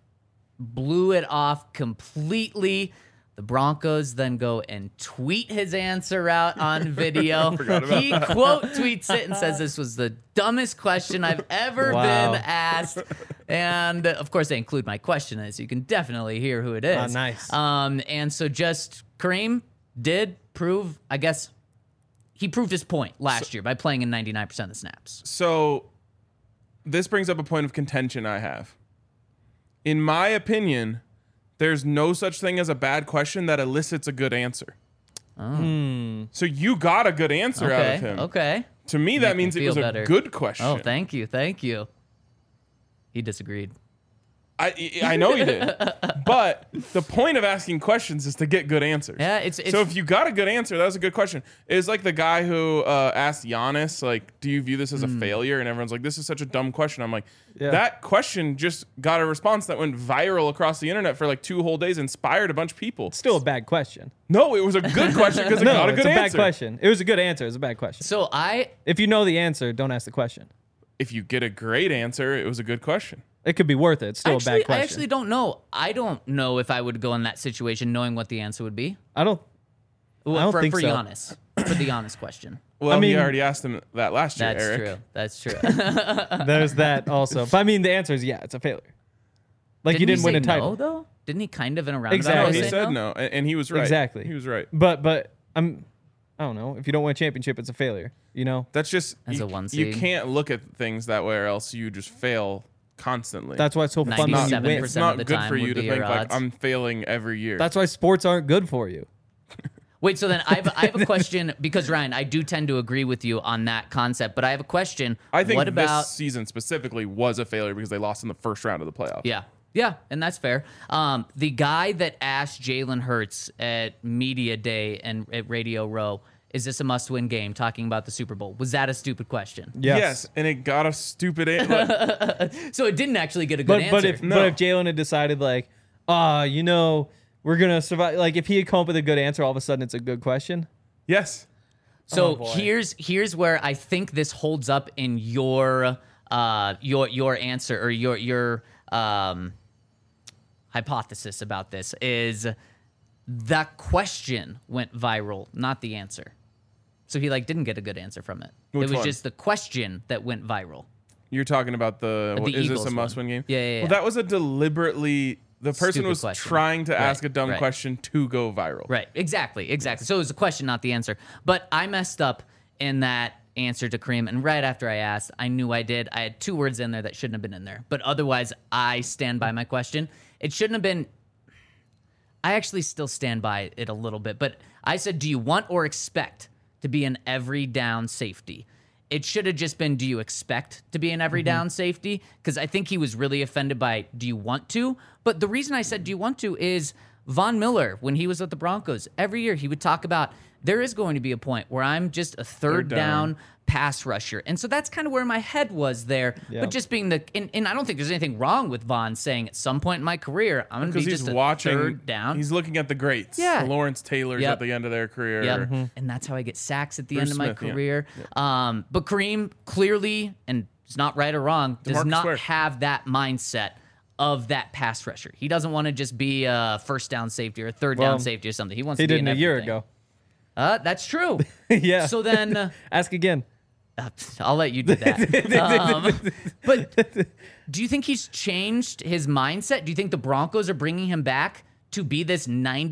D: blew it off completely. The Broncos then go and tweet his answer out on video. He quote tweets it and says this was the dumbest question I've ever been asked. And of course, they include my question in it, so you can definitely hear who it is.
C: Nice.
D: And so just Kareem did prove, I guess, he proved his point last year by playing in 99% of the snaps.
B: So this brings up a point of contention I have. In my opinion, there's no such thing as a bad question that elicits a good answer.
D: Oh.
B: So you got a good answer out of him.
D: Okay.
B: To me, that means it was a good question.
D: Oh, thank you. He disagreed.
B: I know you did. But the point of asking questions is to get good answers.
D: Yeah, it's
B: so if you got a good answer, that was a good question. It's like the guy who asked Giannis, like, do you view this as a failure? And everyone's like, this is such a dumb question. I'm like, that question just got a response that went viral across the internet for like 2 whole days, inspired a bunch of people.
C: Still a bad question.
B: No, it was a good question because it got a good
C: it's a bad
B: answer.
C: question. It was a good answer. It was a bad question.
D: So
C: If you know the answer, don't ask the question.
B: If you get a great answer, it was a good question.
C: It could be worth it. It's still a bad question.
D: I actually don't know. I don't know if I would go in that situation knowing what the answer would be.
C: I don't think
D: for
C: so.
D: Giannis. For the Giannis question.
B: Well,
C: I mean,
B: he already asked him that last year, Eric.
D: That's true.
C: There's that also. But I mean, the answer is yeah, it's a failure. Like you didn't win a title.
D: No, though? Didn't he kind of in a roundabout
C: Exactly.
D: way
B: No, he
D: say
B: said
D: no?
B: no, and he was right.
C: Exactly.
B: He was right.
C: But I don't know. If you don't win a championship, it's a failure. You know.
B: That's just
D: As
B: you,
D: a one
B: you
D: seed.
B: can't look at things that way, or else you just fail constantly.
C: That's why it's so fun when you
D: 97%
C: win.
B: It's not
D: of the
B: good
D: time
B: for you
D: would
B: to
D: be
B: think
D: your
B: like
D: odds.
B: I'm failing every year.
C: That's why sports aren't good for you.
D: Wait, so then I have a question because Ryan, I do tend to agree with you on that concept, but I have a question.
B: I think
D: what about
B: this season specifically was a failure because they lost in the first round of the playoffs.
D: Yeah, and that's fair. The guy that asked Jalen Hurts at Media Day and at Radio Row, is this a must-win game, talking about the Super Bowl, was that a stupid question?
C: Yes.
B: And it got a stupid answer.
D: So it didn't actually get a good
C: But
D: answer.
C: but if Jalen had decided like, we're gonna survive. Like if he had come up with a good answer, all of a sudden it's a good question.
B: Yes.
D: So
C: boy.
D: here's where I think this holds up in your answer or your hypothesis about this is that question went viral, not the answer. So he didn't get a good answer from it.
B: Which
D: it was
B: one?
D: just the question that went viral.
B: You're talking about is this
D: Eagles
B: a
D: one.
B: must-win game?
D: Yeah.
B: Well, that was a deliberately the person
D: Stupid
B: was
D: question.
B: trying to
D: Right,
B: ask a dumb
D: right.
B: question to go viral.
D: Right. Exactly. So it was a question, not the answer. But I messed up in that answer to Kareem, and right after I asked, I knew I did. I had 2 words in there that shouldn't have been in there. But otherwise, I stand by my question. It shouldn't have been. I actually still stand by it a little bit. But I said, do you want or expect to be an every down safety? It should have just been, do you expect to be an every down safety? Because I think he was really offended by, do you want to? But the reason I said, do you want to, is Von Miller, when he was with the Broncos, every year he would talk about, there is going to be a point where I'm just a third down pass rusher. And so that's kind of where my head was there.
C: Yeah.
D: But just being and I don't think there's anything wrong with Von saying at some point in my career, I'm going to be
B: Because
D: just
B: he's
D: a
B: watching,
D: third down.
B: he's looking at the greats.
D: Yeah.
B: The Lawrence Taylors
D: Yep.
B: at the end of their career.
D: Yep. And that's how I get sacks at the
B: Bruce
D: end of my
B: Smith, yeah.
D: career. But Kareem clearly, and it's not right or wrong, does
B: DeMarcus
D: not
B: Ware.
D: have that mindset of that pass rusher. He doesn't want to just be a first down safety or a third down
C: Well,
D: safety or something. He wants
C: He
D: to be
C: did
D: in
C: a year
D: everything.
C: ago.
D: That's true.
C: Yeah.
D: So then
C: Ask again.
D: I'll let you do that. But do you think he's changed his mindset? Do you think the Broncos are bringing him back to be this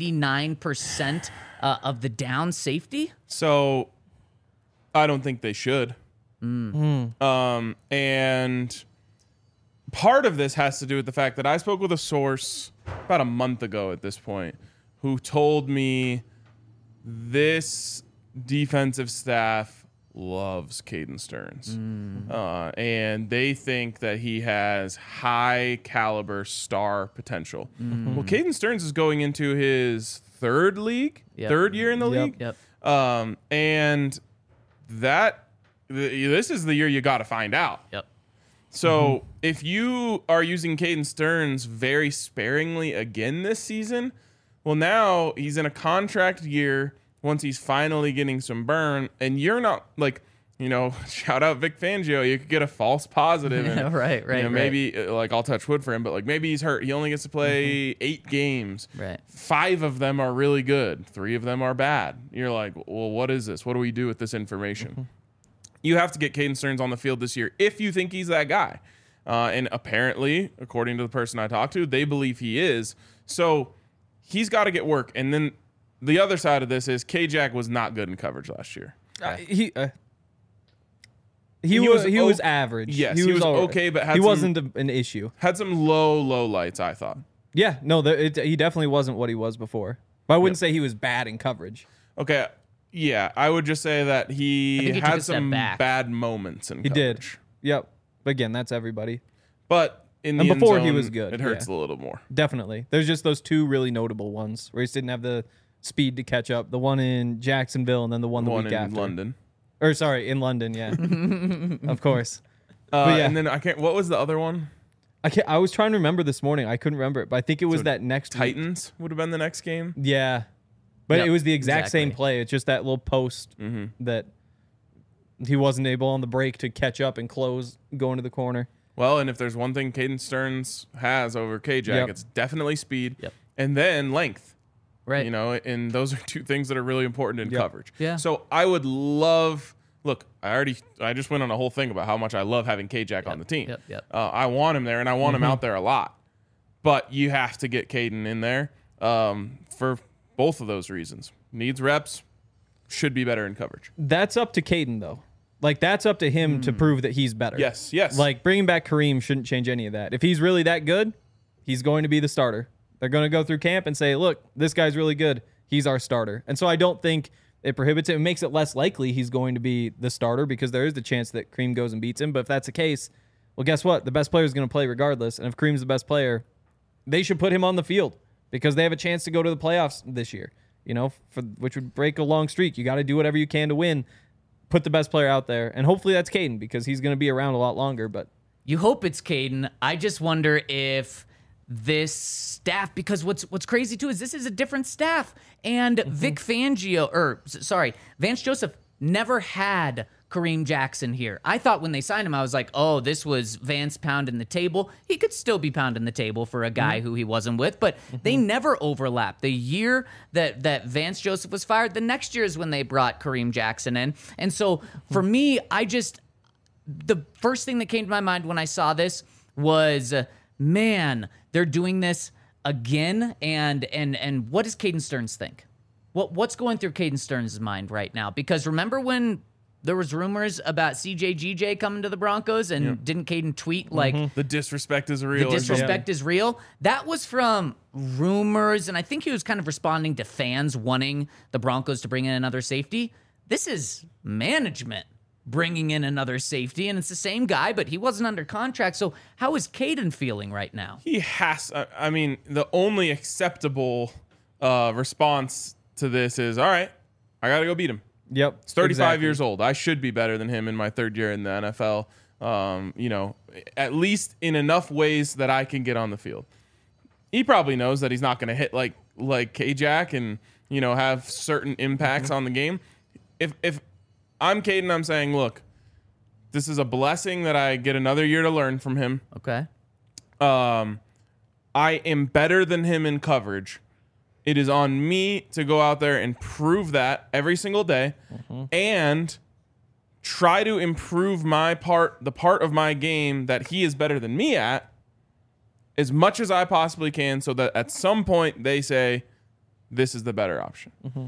D: 99% of the down safety?
B: So I don't think they should.
D: Mm.
B: And part of this has to do with the fact that I spoke with a source about a month ago at this point who told me this defensive staff loves Caden Stearns. And they think that he has high caliber star potential. Well, Caden Stearns is going into his third year in the league.
D: Yep.
B: And this is the year you got to find out.
D: Yep.
B: So if you are using Caden Stearns very sparingly again this season, well, now he's in a contract year once he's finally getting some burn, and you're not shout out Vic Fangio. You could get a false positive. And,
D: Right.
B: Maybe I'll touch wood for him, but maybe he's hurt. He only gets to play 8 games.
D: Right.
B: 5 of them are really good. 3 of them are bad. You're like, well, what is this? What do we do with this information? You have to get Caden Stearns on the field this year if you think he's that guy. And apparently, according to the person I talked to, they believe he is. So he's got to get work. And then the other side of this is K-Jack was not good in coverage last year.
C: He was average.
B: Yes, he was
C: all right.
B: okay, but had
C: he
B: some-
C: wasn't an issue.
B: Had some low lights, I thought.
C: Yeah, no, he definitely wasn't what he was before. But I wouldn't say he was bad in coverage.
B: Okay, yeah, I would just say that he
D: think he took
B: had
D: a step
B: some
D: back.
B: bad moments in
C: He did.
B: coverage.
C: Yep. But again, that's everybody.
B: But in the
C: And
B: end
C: before he
B: zone,
C: was good,
B: it hurts
C: yeah.
B: a little more.
C: Definitely. There's just those 2 really notable ones where he just didn't have the speed to catch up. The one in Jacksonville and then the one the
B: One
C: week
B: in
C: after.
B: London.
C: Or sorry, in London, yeah. Of course. But yeah.
B: And then what was the other one?
C: I was trying to remember this morning. I couldn't remember it, but I think it was
B: So
C: that next week.
B: Titans would have been the next game.
C: Yeah. But
D: Yep,
C: it was the exact same
D: exactly.
C: play. It's just that little post that he wasn't able on the break to catch up and close going to the corner.
B: Well, and if there's one thing Caden Stearns has over K-Jack,
C: Yep.
B: it's definitely speed.
D: Yep.
B: And then length.
D: Right.
B: And those are 2 things that are really important in
C: Yep.
B: coverage.
D: Yeah.
B: So I would love. Look, I just went on a whole thing about how much I love having K-Jack on the team.
D: Yep.
B: I want him there, and I want him out there a lot. but you have to get Caden in there for both of those reasons. Needs reps, should be better in coverage.
C: That's up to Caden, though. Like, that's up to him to prove that he's better.
B: Yes.
C: Like, bringing back Kareem shouldn't change any of that. If he's really that good, he's going to be the starter. They're going to go through camp and say, look, this guy's really good. He's our starter. And so I don't think it prohibits it. It makes it less likely he's going to be the starter because there is the chance that Kareem goes and beats him. But if that's the case, well, guess what? The best player is going to play regardless. And if Kareem's the best player, they should put him on the field because they have a chance to go to the playoffs this year, which would break a long streak. You got to do whatever you can to win. Put the best player out there, and hopefully that's Caden because he's going to be around a lot longer. But
D: you hope it's Caden. I just wonder if this staff, because what's crazy too is this is a different staff, and Vance Joseph never had Kareem Jackson here. I thought when they signed him, I was like, oh, this was Vance pounding the table. He could still be pounding the table for a guy who he wasn't with, but they never overlapped. The year that Vance Joseph was fired, the next year is when they brought Kareem Jackson in. And so for me, the first thing that came to my mind when I saw this was, man, they're doing this again. And what does Caden Stearns think? What's going through Caden Stearns' mind right now? Because remember when there was rumors about CJ coming to the Broncos, and didn't Caden tweet like
B: the disrespect is real?
D: The disrespect is real. That was from rumors, and I think he was kind of responding to fans wanting the Broncos to bring in another safety. This is management bringing in another safety, and it's the same guy, but he wasn't under contract. So how is Caden feeling right now?
B: He has. I mean, the only acceptable response to this is, all right, I got to go beat him.
C: Yep.
B: He's 35 years old. I should be better than him in my third year in the NFL. At least in enough ways that I can get on the field. He probably knows that he's not going to hit like K-Jack and, have certain impacts on the game. If I'm Caden, I'm saying, look, this is a blessing that I get another year to learn from him.
D: Okay.
B: I am better than him in coverage. It is on me to go out there and prove that every single day and try to improve the part of my game that he is better than me at as much as I possibly can so that at some point they say, this is the better option.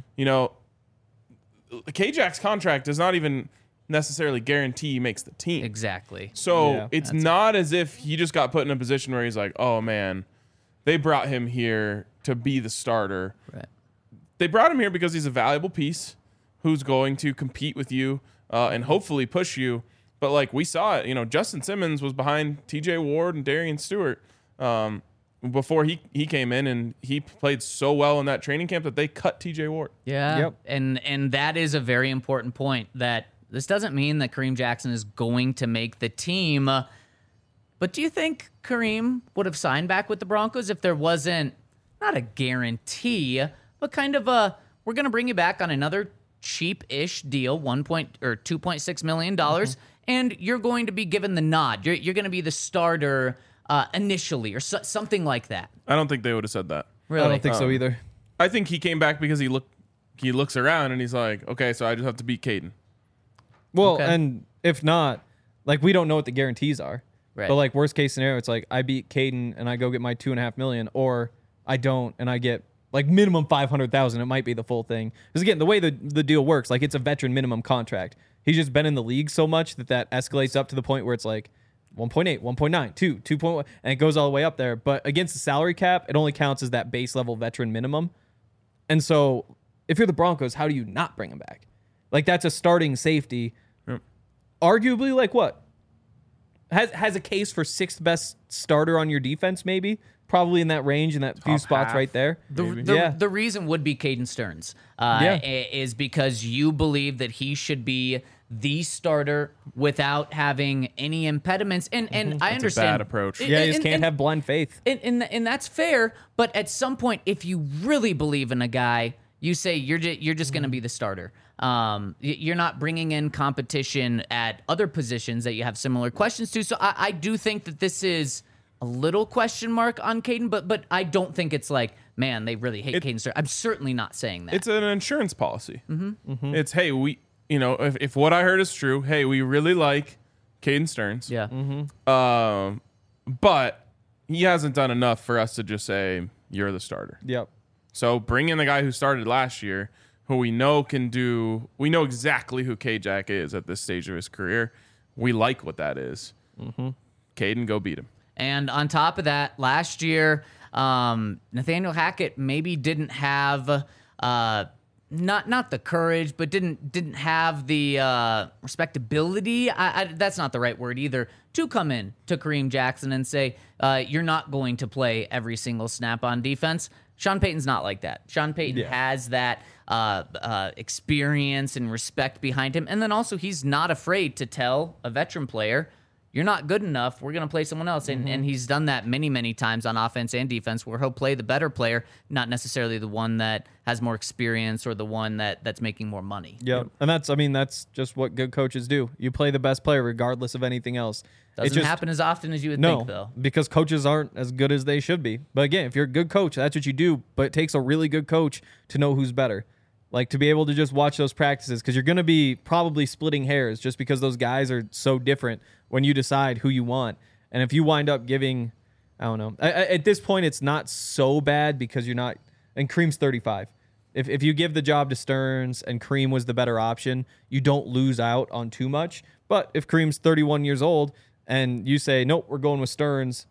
B: K-Jack's contract does not even necessarily guarantee he makes the team.
D: Exactly.
B: So it's not as if he just got put in a position where he's like, oh, man, they brought him here to be the starter.
D: Right.
B: They brought him here because he's a valuable piece who's going to compete with you and hopefully push you. But like we saw it, Justin Simmons was behind TJ Ward and Darian Stewart before he came in, and he played so well in that training camp that they cut TJ Ward.
D: Yeah.
C: Yep.
D: And that is a very important point, that this doesn't mean that Kareem Jackson is going to make the team. But do you think Kareem would have signed back with the Broncos if there wasn't, not a guarantee, but kind of we're going to bring you back on another cheap-ish deal, $2.6 million, and you're going to be given the nod. You're going to be the starter initially, or something like that.
B: I don't think they would have said that.
D: Really?
C: I don't think so either.
B: I think he came back because he looks around and he's like, okay, so I just have to beat Caden.
C: Well,
D: Okay.
C: and if not, like, we don't know what the guarantees are.
D: Right.
C: But like worst case scenario, it's like I beat Caden and I go get my $2.5 million, or I don't and I get like minimum 500,000. It might be the full thing. Because again, the way the deal works, like it's a veteran minimum contract. He's just been in the league so much that escalates up to the point where it's like 1.8, 1.9, 2, 2.1, and it goes all the way up there. But against the salary cap, it only counts as that base level veteran minimum. And so if you're the Broncos, how do you not bring him back? Like that's a starting safety.
B: Yep.
C: Arguably, like what? Has a case for sixth best starter on your defense, maybe? Probably in that range, in that few spots
B: half.
C: right there.
D: The reason would be Caden Stearns is because you believe that he should be the starter without having any impediments. And I understand.
B: a bad approach.
C: Yeah, you just can't have blind faith.
D: And that's fair. But at some point, if you really believe in a guy, you say you're just going to be the starter. You're not bringing in competition at other positions that you have similar questions to. So I do think that this is a little question mark on Caden, but I don't think it's like, man, they really hate Caden Stearns. I'm certainly not saying that.
B: It's an insurance policy. It's, hey, we, if what I heard is true, hey, we really like Caden Stearns.
D: Yeah.
B: But he hasn't done enough for us to just say you're the starter.
C: Yep.
B: So bring in the guy who started last year, who we know can do. We know exactly who K-Jack is at this stage of his career. We like what that is. Mm-hmm. Caden, go beat him.
D: And on top of that, last year, Nathaniel Hackett maybe didn't have not the courage, but didn't have the respectability. That's not the right word either. To come in to Kareem Jackson and say you're not going to play every single snap on defense. Sean Payton's not like that. Sean Payton has that experience and respect behind him, and then also he's not afraid to tell a veteran player, you're not good enough, we're going to play someone else. And he's done that many, many times on offense and defense where he'll play the better player, not necessarily the one that has more experience or the one that's making more money.
C: Yep. And that's just what good coaches do. You play the best player regardless of anything else.
D: Doesn't happen as often as you would think, though.
C: Because coaches aren't as good as they should be. But again, if you're a good coach, that's what you do. But it takes a really good coach to know who's better. Like, to be able to just watch those practices, because you're going to be probably splitting hairs just because those guys are so different when you decide who you want. And if you wind up giving, I don't know, at this point, it's not so bad because you're not, and Kareem's 35. If you give the job to Stearns and Kareem was the better option, you don't lose out on too much. But if Kareem's 31 years old and you say, nope, we're going with Stearns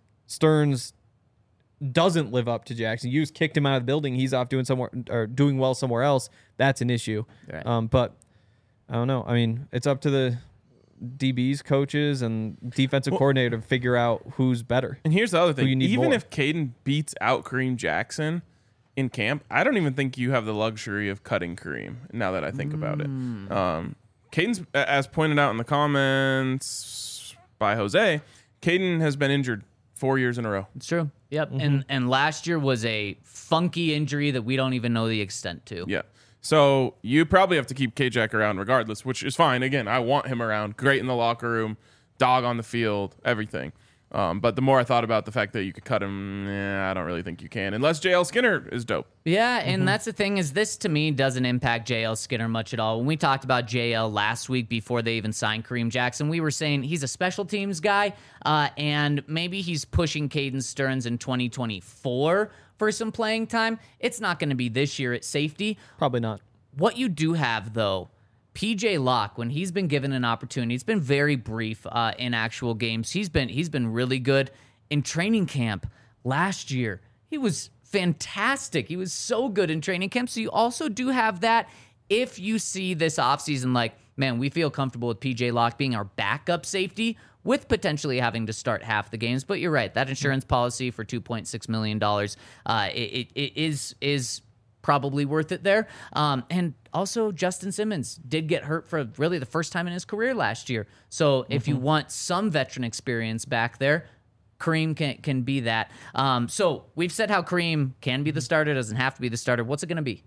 C: doesn't live up to Jackson. You just kicked him out of the building. He's off doing doing well somewhere else. That's an issue.
D: Right.
C: But I don't know. I mean, it's up to the DBs, coaches, and defensive coordinator to figure out who's better.
B: And here's the other thing. Even
C: more.
B: if Caden beats out Kareem Jackson in camp, I don't even think you have the luxury of cutting Kareem, now that I think about it. Caden's, as pointed out in the comments by Jose, Caden has been injured 4 years in a row.
D: It's true. Yep. And last year was a funky injury that we don't even know the extent to.
B: Yeah. So you probably have to keep K-Jack around regardless, which is fine. Again, I want him around. Great in the locker room, dog on the field, everything. But the more I thought about the fact that you could cut him, I don't really think you can, unless JL Skinner is dope.
D: Yeah, and that's the thing, is this to me doesn't impact JL Skinner much at all. When we talked about JL last week before they even signed Kareem Jackson, we were saying he's a special teams guy, and maybe he's pushing Caden Stearns in 2024 for some playing time. It's not going to be this year at safety.
C: Probably not.
D: What you do have, though, PJ Locke, when he's been given an opportunity, it's been very brief in actual games. He's been really good in training camp last year. He was fantastic. He was so good in training camp. So you also do have that if you see this offseason like, man, we feel comfortable with PJ Locke being our backup safety with potentially having to start half the games. But you're right, that insurance policy for $2.6 million, it is probably worth it there. And also, Justin Simmons did get hurt for really the first time in his career last year. So if you want some veteran experience back there, Kareem can be that. So we've said how Kareem can be the starter, doesn't have to be the starter. What's it going to be?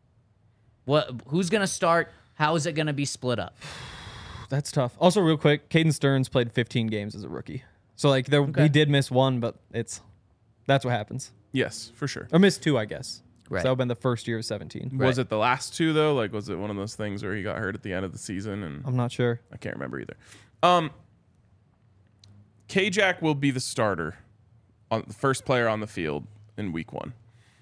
D: Who's going to start? How is it going to be split up?
C: That's tough. Also, real quick, Caden Stearns played 15 games as a rookie. So, like, he did miss one, but that's what happens.
B: Yes, for sure.
C: Or missed two, I guess.
D: Right.
C: So that would have been the first year of 17.
B: Was it the last two, though? Like, was it one of those things where he got hurt at the end of the season? And
C: I'm not sure.
B: I can't remember either. K-Jack will be the starter, on the first player on the field in week 1.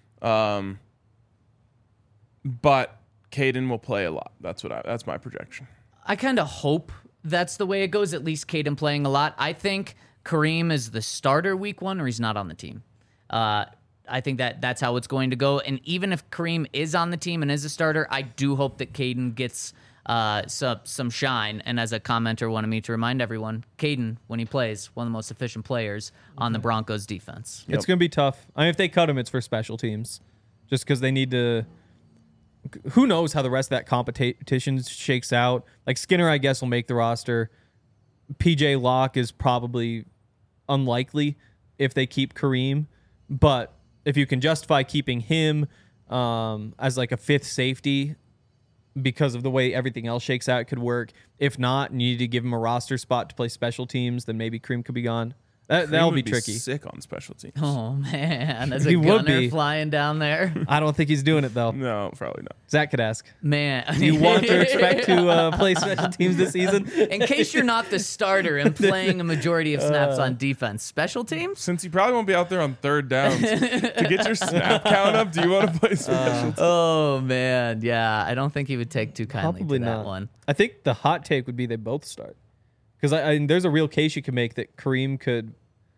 B: But Caden will play a lot. That's my projection.
D: I kind of hope that's the way it goes, at least Caden playing a lot. I think Kareem is the starter week 1 or he's not on the team. I think that's how it's going to go. And even if Kareem is on the team and is a starter, I do hope that Caden gets some shine. And as a commenter wanted me to remind everyone, Caden, when he plays, one of the most efficient players on the Broncos defense.
C: It's going to be tough. I mean, if they cut him, it's for special teams. Just because they need to... Who knows how the rest of that competition shakes out. Like, Skinner, I guess, will make the roster. PJ Locke is probably unlikely if they keep Kareem. But if you can justify keeping him as like a fifth safety because of the way everything else shakes out, it could work. If not, and you need to give him a roster spot to play special teams, then maybe Kareem could be gone. That'll
B: Kareem
C: be
B: would
C: tricky.
B: Sick on special teams.
D: Oh man, as a
C: He would
D: gunner
C: be.
D: flying down there.
C: I don't think he's doing it though.
B: No, probably not.
C: Zach could ask.
D: Man,
C: Do you want to expect to play special teams this season?
D: In case you're not the starter and playing a majority of snaps on defense, special teams.
B: Since you probably won't be out there on third downs to get your snap count up, do you want to play special teams?
D: Oh man, yeah, I don't think he would take too kindly
C: Probably
D: to that
C: not.
D: one.
C: I think the hot take would be they both start. Because there's a real case you can make that Kareem could.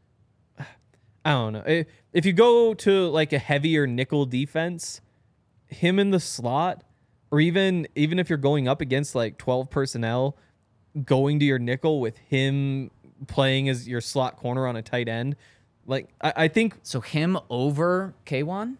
C: I don't know. If you go to like a heavier nickel defense, him in the slot, or even if you're going up against like 12 personnel, going to your nickel with him playing as your slot corner on a tight end, like I think
D: So him over K1?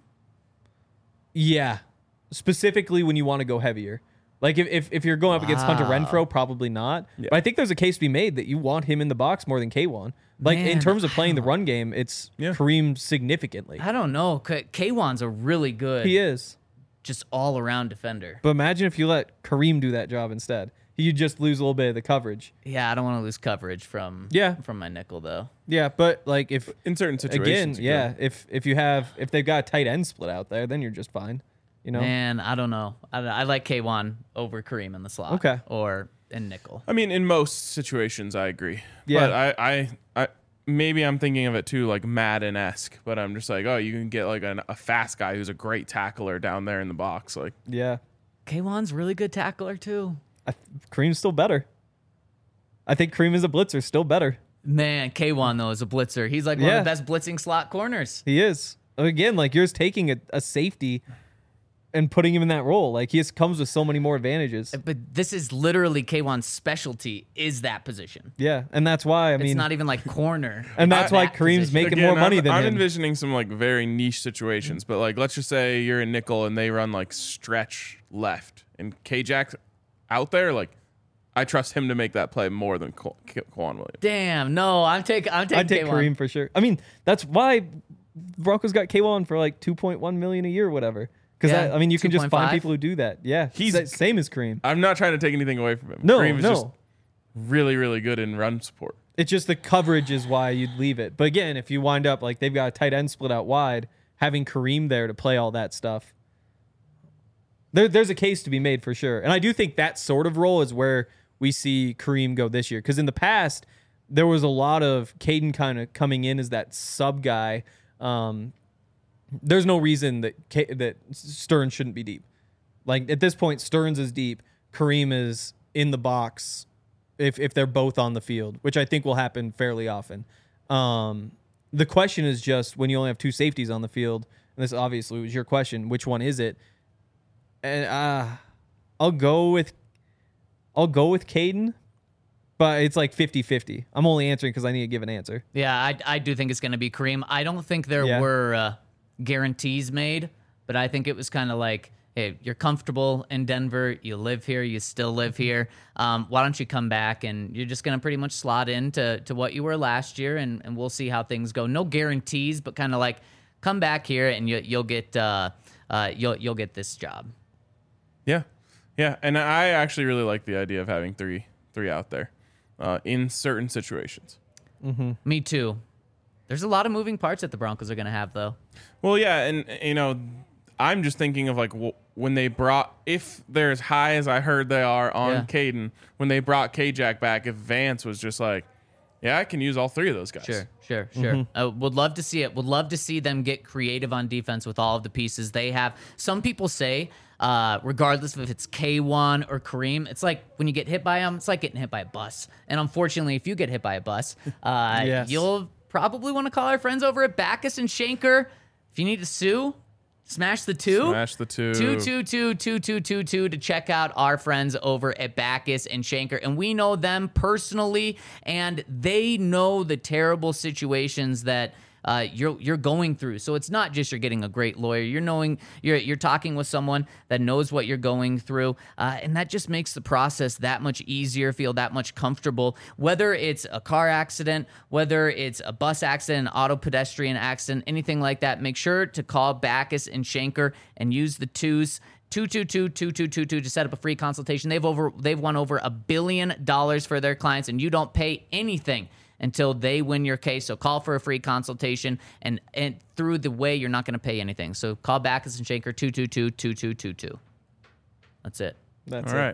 C: yeah, specifically when you want to go heavier. Like if you're going up against Hunter
D: Wow.
C: Renfro, probably not. But I think there's a case to be made that you want him in the box more than K1. Like in
D: Man,
C: terms of playing the run game, it's Kareem significantly.
D: I don't know. K1's a really good,
C: He is.
D: just all around defender.
C: But imagine if you let Kareem do that job instead. He'd just lose a little bit of the coverage.
D: Yeah, I don't want to lose coverage from my nickel though.
C: Yeah, but like if
B: In certain
C: again,
B: situations. you
C: yeah,
B: could.
C: if they've got a tight end split out there, then you're just fine. You know?
D: Man, I don't know. I like K1 over Kareem in the slot.
C: Okay.
D: Or in nickel.
B: I mean, in most situations, I agree.
C: Yeah.
B: But I maybe I'm thinking of it too, like Madden-esque. But I'm just like, oh, you can get like a fast guy who's a great tackler down there in the box. Like,
C: Yeah.
D: K1's really good tackler too.
C: Kareem's still better. I think Kareem as a blitzer still better.
D: Man, K1 though is a blitzer. He's like one
C: Yeah.
D: of the best blitzing slot corners.
C: He is. Again, like yours taking a safety and putting him in that role. Like he comes with so many more advantages.
D: But this is literally K1's specialty is that position.
C: Yeah, and that's why
D: It's not even like corner.
C: and that's
D: It's
C: why
D: that
C: Kareem's
D: position.
C: making more money than
B: I'm
C: him.
B: envisioning some like very niche situations. But like, let's just say you're in nickel and they run like stretch left and K-Jack's out there. Like, I trust him to make that play more than Quan Williams.
D: Damn, no, I'm taking
C: I'd take
D: K1.
C: Kareem for sure. I mean, that's why Broncos got K1 for like 2.1 million a year or whatever. Because
D: Yeah,
C: I mean, you can just
D: 2.5.
C: find people who do that. Yeah,
B: He's-
C: same as Kareem.
B: I'm not trying to take anything away from him.
C: No,
B: Kareem is
C: no.
B: just really, really good in run support.
C: It's just the coverage is why you'd leave it. But again, if you wind up like they've got a tight end split out wide, having Kareem there to play all that stuff, there's a case to be made for sure. And I do think that sort of role is where we see Kareem go this year. Because in the past, there was a lot of Caden kind of coming in as that sub guy. There's no reason that Stearns shouldn't be deep. Like at this point, Stearns is deep. Kareem is in the box if they're both on the field, which I think will happen fairly often. The question is just when you only have two safeties on the field, and this obviously was your question, which one is it? And I'll go with Caden, but it's like 50-50. I'm only answering because I need to give an answer.
D: Yeah, I do think it's going to be Kareem. I don't think there were guarantees made, but I think it was kind of like, hey, you're comfortable in Denver. You live here. You still live here. Why don't you come back and you're just going to pretty much slot into what you were last year, and we'll see how things go. No guarantees, but kind of like come back here and you'll get you'll get this job.
B: Yeah. Yeah. And I actually really like the idea of having three out there in certain situations.
D: Me too. There's a lot of moving parts that the Broncos are going to have, though.
B: Well, yeah. And, you know, I'm just thinking of like when they brought, if they're as high as I heard they are on Caden, when they brought K-Jack back, if Vance was just like, yeah, I can use all three of those guys.
D: Sure. Would love to see it. Would love to see them get creative on defense with all of the pieces they have. Some people say, regardless of if it's K1 or Kareem, it's like when you get hit by them, it's like getting hit by a bus. And unfortunately, if you get hit by a bus, you'll probably want to call our friends over at Backus and Shanker. If you need to sue, smash the two.
B: Smash the two.
D: 222 to check out our friends over at Backus and Shanker. And we know them personally, and they know the terrible situations that you're going through. So it's not just you're getting a great lawyer. You're talking with someone that knows what you're going through, and that just makes the process that much easier, feel that much comfortable. Whether it's a car accident, whether it's a bus accident, an auto pedestrian accident, anything like that, make sure to call Backus and Shanker and use the twos. 222-2222 to set up a free consultation. They've won over $1 billion for their clients, and you don't pay anything until they win your case. So call for a free consultation, and through the way, you're not going to pay anything. So call Backus and Shanker 222-2222. That's it.
C: That's
B: All right.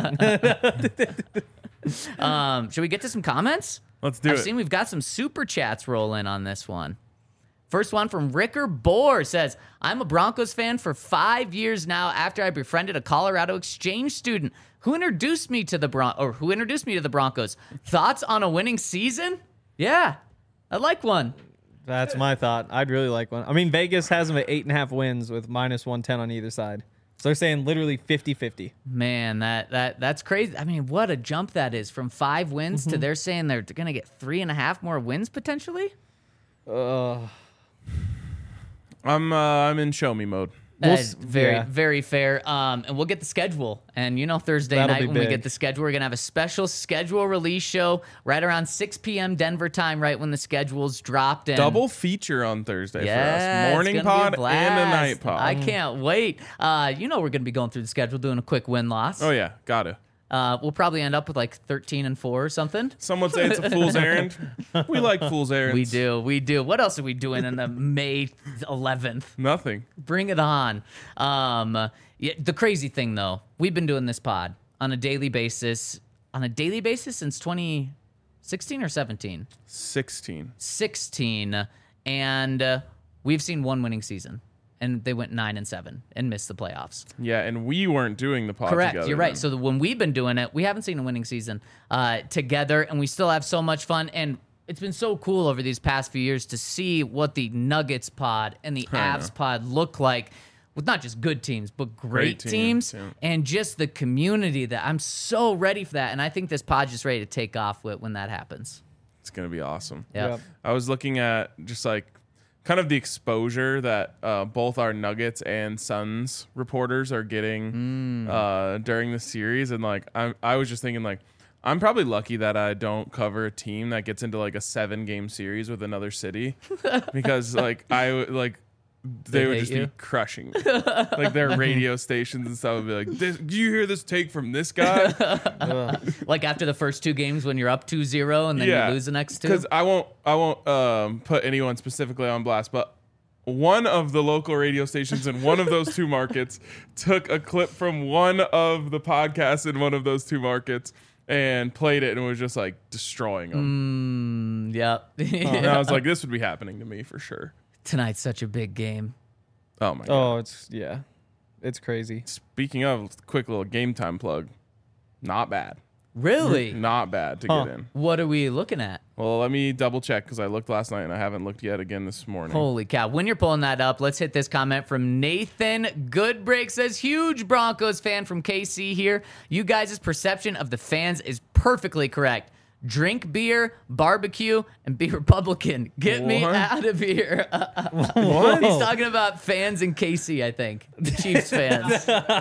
D: Should we get to some comments?
B: Let's do
D: I've
B: it.
D: seen we've got some super chats roll in on this one. First one from Ricker Bohr says, I'm a Broncos fan for 5 years now after I befriended a Colorado exchange student who introduced me to the Broncos. Thoughts on a winning season? Yeah, I'd like one.
C: That's my thought. I'd really like one. I mean, Vegas has them at 8.5 wins with -110 on either side. So they're saying literally 50-50.
D: Man, that's crazy. I mean, what a jump that is from 5 wins to they're saying they're going to get 3.5 more wins potentially.
B: I'm in show me mode.
D: Very fair. And we'll get the schedule. And Thursday
C: That'll
D: night
C: be
D: when we
C: big.
D: get the schedule, we're gonna have a special schedule release show right around 6 p.m. Denver time, right when the schedule's dropped. And
B: Double feature on Thursday for
D: yeah,
B: us. Morning
D: it's gonna be
B: pod
D: blast.
B: and a night pod.
D: I can't wait. We're gonna be going through the schedule, doing a quick win loss.
B: Oh yeah, gotta.
D: We'll probably end up with like 13-4 or something.
B: Some would say it's a fool's errand. We like fool's errands.
D: We do. What else are we doing on the May 11th?
B: Nothing.
D: Bring it on. The crazy thing, though, we've been doing this pod on a daily basis since 2016 or 17?
B: 16.
D: 16. And we've seen one winning season. And they went 9-7 and missed the playoffs.
B: Yeah, and we weren't doing the pod
D: Correct.
B: together.
D: You're right.
B: then.
D: So when we've been doing it, we haven't seen a winning season together, and we still have so much fun. And it's been so cool over these past few years to see what the Nuggets pod and the Avs pod look like with not just good teams, but great teams,
B: yeah.
D: and just the community that I'm so ready for that. And I think this pod's just ready to take off when that happens.
B: It's gonna be awesome.
D: Yeah.
C: Yep.
B: I was looking at just like kind of the exposure that both our Nuggets and Suns reporters are getting during the series, and like I was just thinking like I'm probably lucky that I don't cover a team that gets into like a 7-game series with another city because like they would
D: hate
B: just
D: you?
B: be crushing me. Like their radio stations and stuff would be like, "Do you hear this take from this guy?"
D: Like after the first 2 games when you're up 2-0 and then you lose the next 2?
B: Because I won't put anyone specifically on blast, but one of the local radio stations in one of those 2 markets took a clip from one of the podcasts in one of those 2 markets and played it and was just like destroying them.
D: Yep.
B: And I was like, this would be happening to me for sure.
D: Tonight's such a big game.
B: Oh my god.
C: Oh, it's crazy.
B: Speaking of, quick little game time plug. Not bad.
D: Really?
B: Not bad to get in.
D: What are we looking at?
B: Well, let me double check because I looked last night and I haven't looked yet again this morning.
D: Holy cow. When you're pulling that up, let's hit this comment from Nathan Goodbreak. Says, huge Broncos fan from KC here. You guys' perception of the fans is perfectly correct. Drink beer, barbecue, and be Republican. Get me
B: What?
D: out of here.
B: What?
D: He's talking about fans in KC, I think. The Chiefs fans.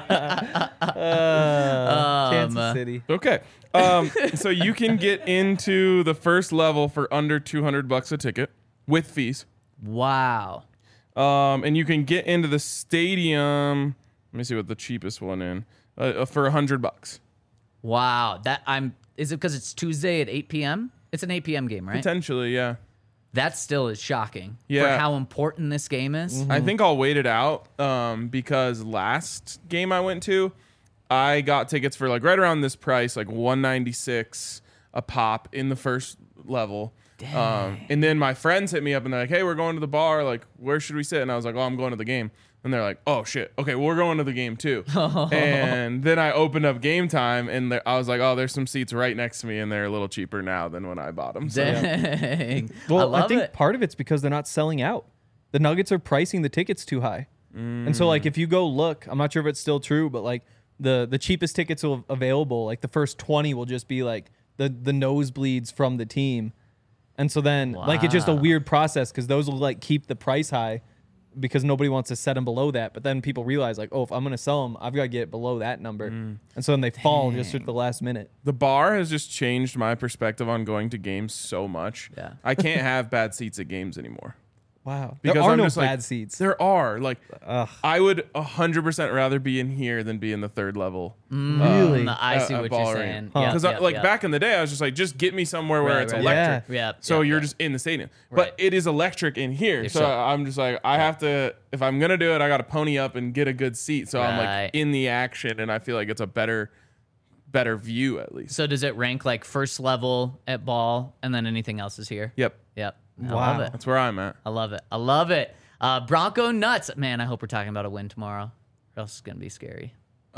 C: Kansas City.
B: Okay. So you can get into the first level for under $200 a ticket with fees.
D: Wow.
B: And you can get into the stadium. Let me see what the cheapest one in for $100.
D: Wow. Is it because it's Tuesday at 8 p.m.? It's an 8 p.m. game, right?
B: Potentially, yeah.
D: That still is shocking for
B: Yeah.
D: how important this game is.
B: I think I'll wait it out because last game I went to, I got tickets for like right around this price, like $196 a pop in the first level. And then my friends hit me up and they're like, "Hey, we're going to the bar. Like, where should we sit?" And I was like, "Oh, I'm going to the game." And they're like, "Oh shit, okay, well, we're going to the game too." And then I opened up Game Time, and I was like, "Oh, there's some seats right next to me, and they're a little cheaper now than when I bought them." So,
D: Dang.
C: Well,
D: I love
C: think
D: it.
C: part of it's because they're not selling out. The Nuggets are pricing the tickets too high. And so, like, if you go look, I'm not sure if it's still true, but like the cheapest tickets available, like the first 20 will just be like the nosebleeds from the team. And so then, like, it's just a weird process because those will like keep the price high because nobody wants to set them below that. But then people realize, like, oh, if I'm going to sell them, I've got to get below that number. And so then they fall just at the last minute.
B: the bar has just changed my perspective on going to games so much.
D: Yeah.
B: I can't have bad seats at games anymore.
C: Wow.
B: Because
C: There are
B: I'm
C: no
B: just like,
C: bad seats.
B: There are. Like,
C: Ugh.
B: I would 100% rather be in here than be in the third level.
C: Really?
D: I see what you're
B: ball
D: saying.
B: arena.
D: Yep,
B: Because
D: yep.
B: back in the day, I was just like, just get me somewhere where
D: Right,
B: it's
D: right,
B: electric.
C: yeah.
D: Yep,
B: So
D: yep,
B: you're
D: yep.
B: just in the stadium.
D: Right.
B: But it is electric in here.
D: You're
B: So
D: so-
B: I'm just like, I have to, if I'm going to do it, I got to pony up and get a good seat. So I'm
D: Right.
B: like in the action, and I feel like it's a better view at least.
D: So does it rank like first level at ball, and then anything else is here?
B: Yep.
D: Yep. I
C: Wow.
D: love it.
B: That's where I'm at.
D: I love it. I love it. Bronco nuts. Man, I hope we're talking about a win tomorrow, or else it's going to be scary.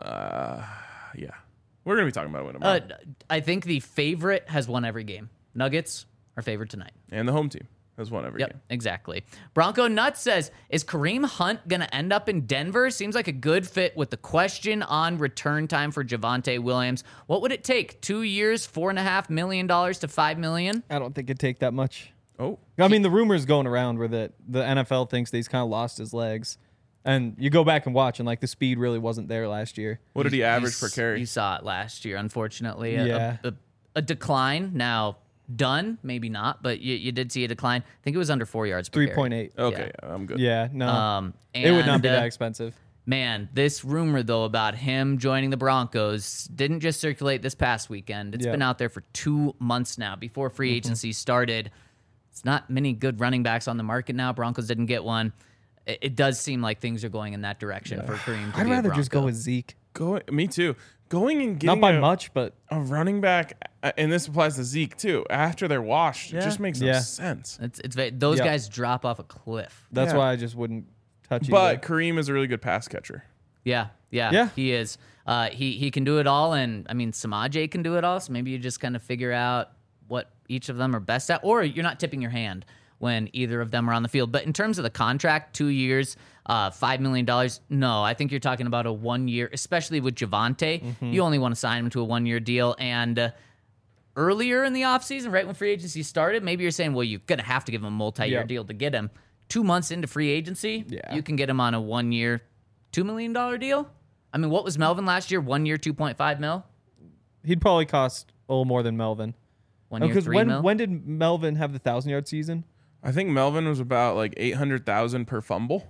B: Yeah. We're going to be talking about a win tomorrow.
D: I think the favorite has won every game. Nuggets are favored tonight.
B: And the home team has won every
D: Yep,
B: game.
D: exactly. Bronco Nuts says, is Kareem Hunt going to end up in Denver? Seems like a good fit with the question on return time for Javonte Williams. What would it take? 2 years, $4.5 million to $5 million?
C: I don't think it'd take that much.
B: Oh.
C: I mean, the rumors going around were that the NFL thinks that he's kind of lost his legs. And you go back and watch, and like the speed really wasn't there last year.
B: What did he average per carry?
D: You saw it last year, unfortunately.
C: Yeah.
D: A decline. Now, done, maybe not, but you did see a decline. I think it was under 4 yards per carry.
C: 3.8.
B: Okay, yeah, I'm good.
C: Yeah, no.
D: And,
C: it would not be that expensive.
D: Man, this rumor, though, about him joining the Broncos didn't just circulate this past weekend. It's
C: Yeah.
D: been out there for 2 months now, before free agency started. It's not many good running backs on the market now. Broncos didn't get one. It does seem like things are going in that direction for Kareem to
C: I'd
D: be a
C: rather just go
D: Bronco.
C: with Zeke.
B: Me too. Going and
C: Not
B: getting
C: by much, but
B: a running back, and this applies to Zeke too, after they're washed, it just makes no
C: Yeah.
B: sense.
D: Those
C: Yeah.
D: guys drop off a cliff.
C: that's
B: Yeah.
C: why I just wouldn't touch
B: But
C: either.
B: Kareem is a really good pass catcher.
D: Yeah,
C: Yeah.
D: he is. He can do it all, and I mean Samaje can do it all. So maybe you just kind of figure out what each of them are best at, or you're not tipping your hand when either of them are on the field. But in terms of the contract, 2 years, $5 million, no, I think you're talking about a 1 year, especially with Javonte. You only want to sign him to a 1 year deal. And earlier in the offseason, right when free agency started, maybe you're saying, well, you're going to have to give him a multi-year
C: Yep.
D: deal to get him. 2 months into free agency,
C: Yeah.
D: you can get him on a 1 year, $2 million deal. I mean, what was Melvin last year? 1 year, 2.5 mil?
C: He'd probably cost a little more than Melvin.
D: 1 year,
C: Because
D: 3 mil?
C: when did Melvin have the 1,000-yard season?
B: I think Melvin was about like 800,000 per fumble.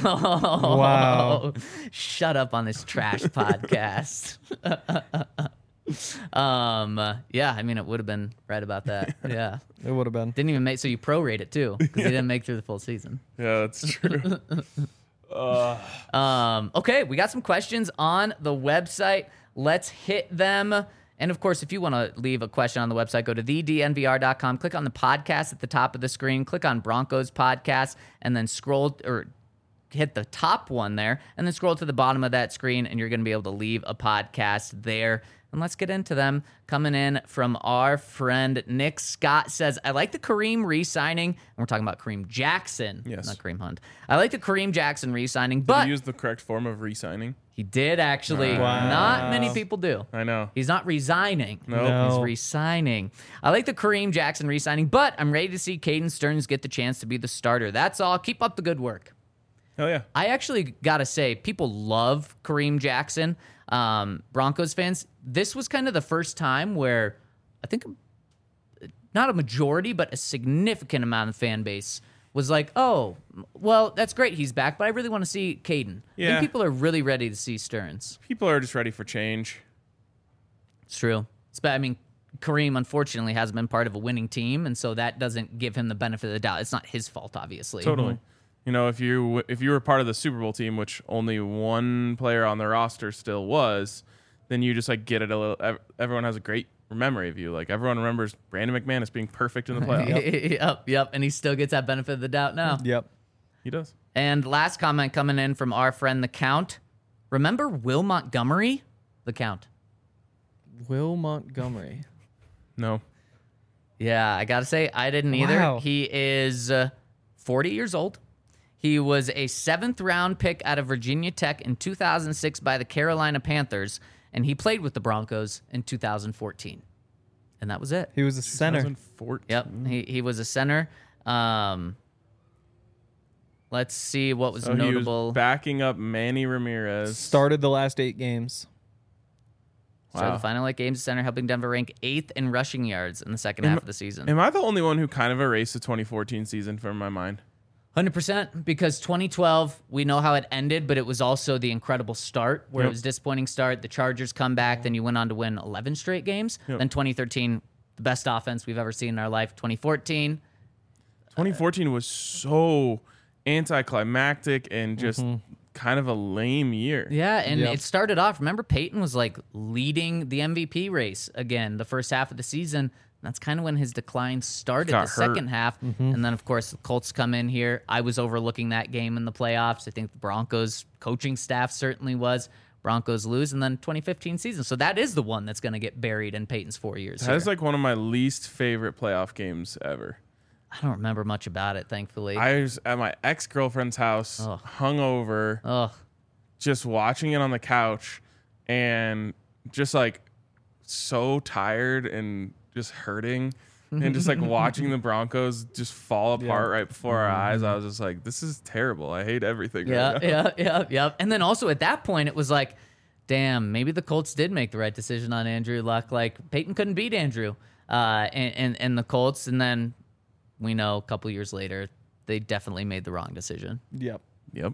C: Wow.
D: Shut up on this trash podcast. Yeah, I mean, it would have been right about that. Yeah.
C: It would have been.
D: Didn't even make, so you prorate it too, because he didn't make through the full season.
B: Yeah, that's true.
D: Okay, we got some questions on the website. Let's hit them. And of course, if you want to leave a question on the website, go to thednvr.com, click on the podcast at the top of the screen, click on Broncos podcast, and then scroll or hit the top one there, and then scroll to the bottom of that screen, and you're going to be able to leave a podcast there. And let's get into them. Coming in from our friend Nick Scott says, I like the Kareem re-signing. And we're talking about Kareem Jackson,
B: Yes.
D: not Kareem Hunt. I like the Kareem Jackson re-signing,
B: Did
D: but
B: he use the correct form of re-signing?
D: he did actually.
C: Wow.
D: Not many people do.
B: I know.
D: He's not resigning.
B: No.
D: He's
C: No.
D: re-signing. I like the Kareem Jackson re-signing, but I'm ready to see Caden Stearns get the chance to be the starter. That's all. Keep up the good work.
B: Hell yeah.
D: I actually got to say, people love Kareem Jackson. Broncos fans, this was kind of the first time where I think not a majority, but a significant amount of fan base was like, oh, well, that's great. He's back, but I really want to see Caden. I
B: Yeah.
D: think people are really ready to see Stearns.
B: People are just ready for change.
D: It's true. I mean, Kareem, unfortunately, hasn't been part of a winning team, and so that doesn't give him the benefit of the doubt. It's not his fault, obviously.
B: Totally. You know, if you were part of the Super Bowl team, which only one player on the roster still was, then you just like get it a little. Everyone has a great memory of you. Like everyone remembers Brandon McManus being perfect in the playoffs.
D: Yep. And he still gets that benefit of the doubt now.
C: Yep.
B: He does.
D: And last comment coming in from our friend the Count. Remember Will Montgomery? The Count.
C: Will Montgomery.
B: No.
D: Yeah, I gotta say, I didn't either.
C: Wow.
D: He is 40 years old. He was a 7th round pick out of Virginia Tech in 2006 by the Carolina Panthers, and he played with the Broncos in 2014. And that was it.
C: He was a center.
B: 2014.
D: Yep, he was a center. Let's see what was
B: So he
D: notable.
B: was backing up Manny Ramirez.
C: Started the last 8 games.
D: Started
B: Wow.
D: the final 8 games at center, helping Denver rank 8th in rushing yards in the second half of the season.
B: Am I the only one who kind of erased the 2014 season from my mind?
D: 100%, because 2012, we know how it ended, but it was also the incredible start where it was a disappointing start. The Chargers come back, then you went on to win 11 straight games. Then 2013, the best offense we've ever seen in our life. 2014
B: was so anticlimactic and just kind of a lame year.
D: Yeah, and it started off, remember Peyton was like leading the MVP race again the first half of the season. That's kind of when his decline started,
B: Got
D: the
B: hurt.
D: second half. And then, of course, the Colts come in here. I was overlooking that game in the playoffs. I think the Broncos coaching staff certainly was. Broncos lose, and then 2015 season. So that is the one that's going to get buried in Peyton's 4 years.
B: That is like one of my least favorite playoff games ever.
D: I don't remember much about it, thankfully.
B: I was at my ex-girlfriend's house, hungover,
D: Ugh.
B: just watching it on the couch, and just like so tired and just hurting, and just like watching the Broncos just fall apart right before our eyes. I was just like, this is terrible. I hate everything. right now.
D: Yeah. And then also at that point, it was like, damn, maybe the Colts did make the right decision on Andrew Luck. Like Peyton couldn't beat Andrew and the Colts, and then we know a couple years later they definitely made the wrong decision.
C: Yep.
B: Yep.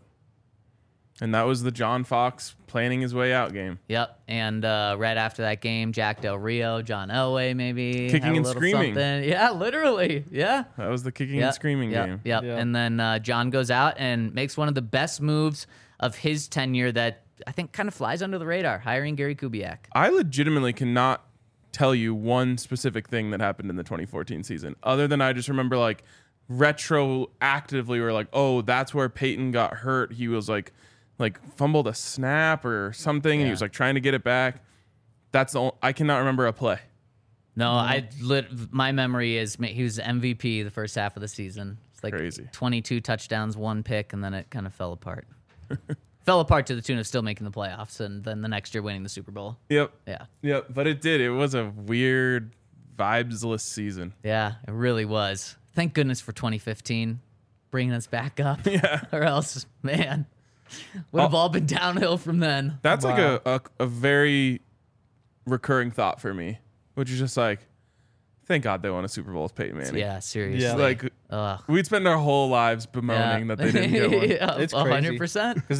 B: And that was the John Fox planning his way out game.
D: Yep. And right after that game, Jack Del Rio, John Elway maybe
B: Kicking
D: had a
B: and
D: little
B: screaming.
D: something. Yeah, literally. Yeah.
B: That was the kicking and screaming game.
D: Yep.
C: Yeah.
D: And then John goes out and makes one of the best moves of his tenure that I think kind of flies under the radar, hiring Gary Kubiak.
B: I legitimately cannot tell you one specific thing that happened in the 2014 season, other than I just remember like retroactively we're like, oh, that's where Peyton got hurt. He was like fumbled a snap or something, and he was like trying to get it back. That's the I cannot remember a play.
D: No, my memory is he was MVP the first half of the season. It's like
B: Crazy.
D: 22 touchdowns, 1 pick, and then it kind of fell apart. Fell apart to the tune of still making the playoffs, and then the next year winning the Super Bowl.
B: Yep.
D: Yeah.
B: Yep. But it did. It was a weird, vibesless season.
D: Yeah, it really was. Thank goodness for 2015 bringing us back up.
B: Yeah.
D: Or else, man, would have all been downhill from then.
B: That's like a very recurring thought for me, which is just like, thank God they won a Super Bowl with Peyton Manning.
D: Yeah, seriously.
C: Yeah.
B: Like,
D: Ugh.
B: we'd spend our whole lives bemoaning that they didn't get one.
D: Yeah,
C: It's crazy.
D: 100%.
C: Because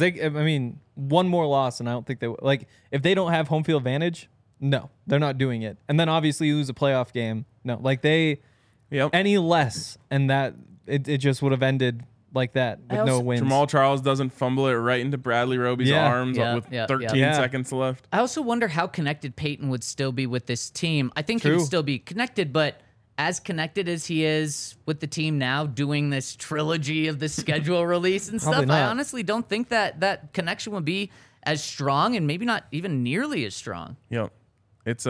C: one more loss, and I don't think they like if they don't have home field advantage. No, they're not doing it. And then obviously you lose a playoff game. No, like any less, and that it just would have ended like that with no wins.
B: Jamal Charles doesn't fumble it right into Bradley Roby's arms with 13 seconds left.
D: I also wonder how connected Peyton would still be with this team. I think he would still be connected, but as connected as he is with the team now, doing this trilogy of the schedule release and stuff, I honestly don't think that connection would be as strong, and maybe not even nearly as strong.
B: Yep. It's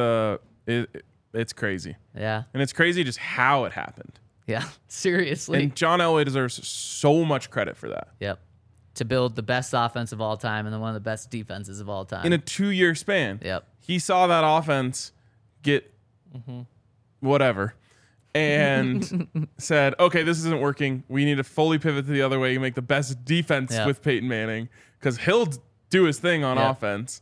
B: crazy.
D: Yeah.
B: And it's crazy just how it happened.
D: Yeah. Seriously.
B: And John Elway deserves so much credit for that.
D: Yep. To build the best offense of all time and then one of the best defenses of all time.
B: In a 2-year span.
D: Yep.
B: He saw that offense get whatever and said, okay, this isn't working. We need to fully pivot to the other way and make the best defense with Peyton Manning, because he'll do his thing on offense.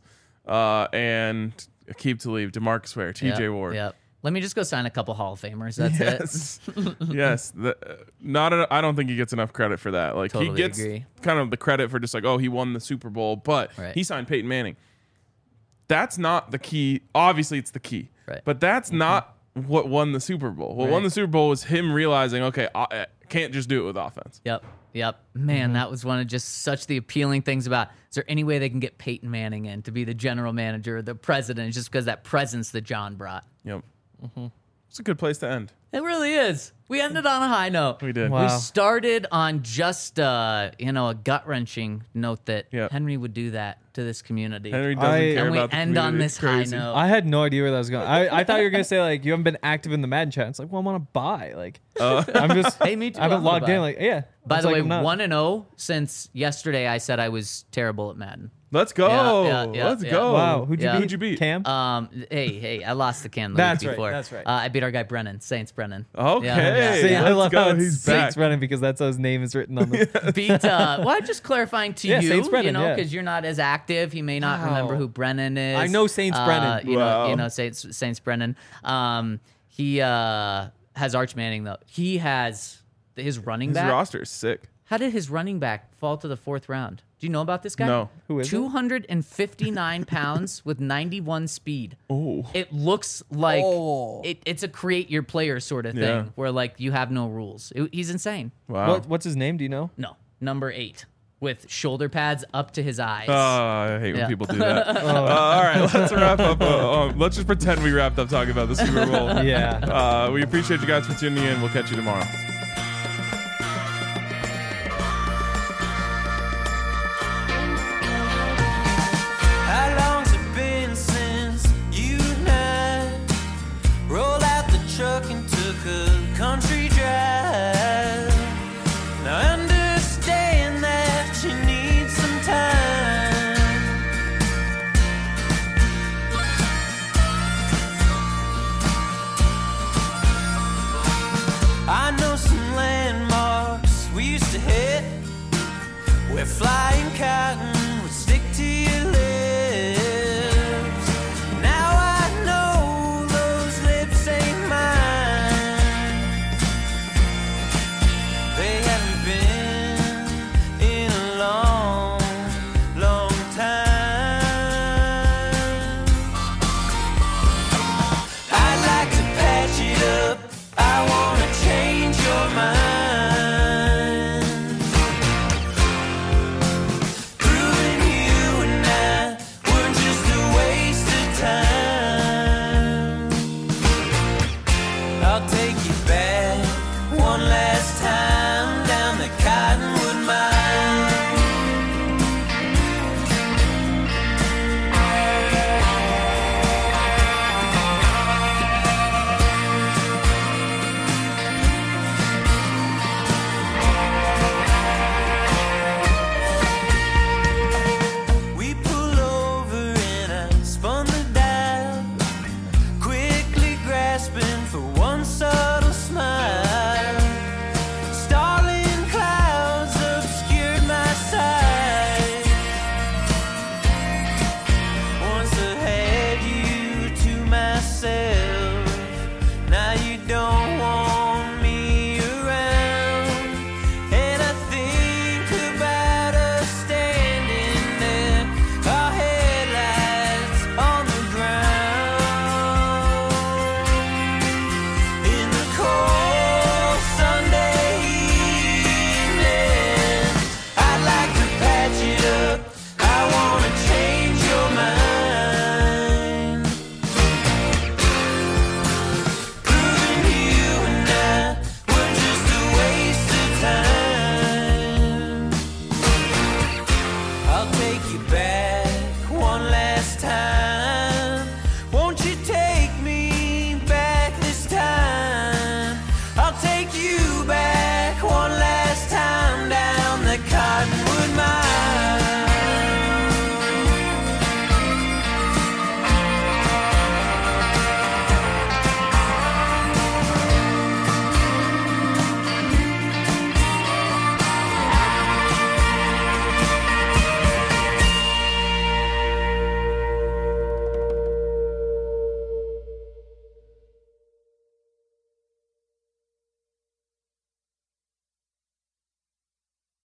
B: And Aqib Talib, DeMarcus Ware, TJ Ward.
D: Yep. Let me just go sign a couple Hall of Famers. That's it.
B: Yes. I don't think he gets enough credit for that. Like
D: Totally
B: he gets
D: agree.
B: kind of the credit for just like, oh, he won the Super Bowl, but he signed Peyton Manning. That's not the key. Obviously, it's the key.
D: Right.
B: But that's not what won the Super Bowl. What won the Super Bowl was him realizing, okay, I can't just do it with offense.
D: Yep. Man, that was one of just such the appealing things about, is there any way they can get Peyton Manning in to be the general manager or the president, just because that presence that John brought?
B: Yep. It's a good place to end.
D: It really is. We ended on a high note.
B: We did.
C: Wow.
D: We started on just a gut-wrenching note that Henry would do that to this community.
B: Henry doesn't care
D: and we
B: about the
D: end on
B: community.
D: this
B: It's crazy.
D: high note.
C: I had no idea where that was going. I thought you were gonna say like you haven't been active in the Madden chat. It's like, well, I'm on a bye. Like I'm just
D: Hey, me too.
C: I haven't
D: I'm on a
C: logged
D: bye.
C: in. Like
D: By
C: It's
D: the
C: like
D: way,
C: I'm not.
D: 1-0 since yesterday. I said I was terrible at Madden.
B: Let's go.
D: Yeah,
B: Let's
D: yeah.
B: go.
C: Wow, who'd
D: Yeah.
C: you beat? Cam.
D: Hey, I lost the can the
C: That's
D: week
C: right,
D: before.
C: that's right.
D: I beat our guy Brennan, Saints Brennan.
B: Okay.
D: Yeah.
C: See, I
B: let's
C: love
B: go.
C: how it's
B: He's
C: Saints
B: back.
C: Brennan because that's how his name is written on the.
D: Beat. Well, just clarifying to
C: Yeah,
D: you,
C: Saints Brennan, yeah.
D: because you're not as active. He may not remember who Brennan is.
C: I know Saints Brennan.
D: You
B: Wow.
D: know Saints Brennan. He has Arch Manning though. He has his running
B: His
D: back.
B: roster is sick.
D: How did his running back fall to the 4th round? Do you know about this guy?
B: No.
C: Who is it?
D: 259 pounds with 91 speed.
B: Oh.
D: It looks like
G: Oh.
D: it's a create your player sort of thing
B: Yeah.
D: where like you have no rules. He's insane.
B: Wow.
C: What's his name? Do you know?
D: No, number 8 with shoulder pads up to his eyes.
B: I hate when
D: Yeah.
B: people do that. All right, let's wrap up. Let's just pretend we wrapped up talking about the Super Bowl.
C: Yeah.
B: We appreciate you guys for tuning in. We'll catch you tomorrow.
A: How long's it been since you and I rolled out the truck and took a country drive? Now I understand that you need some time. I know some landmarks we used to hit where flying cotton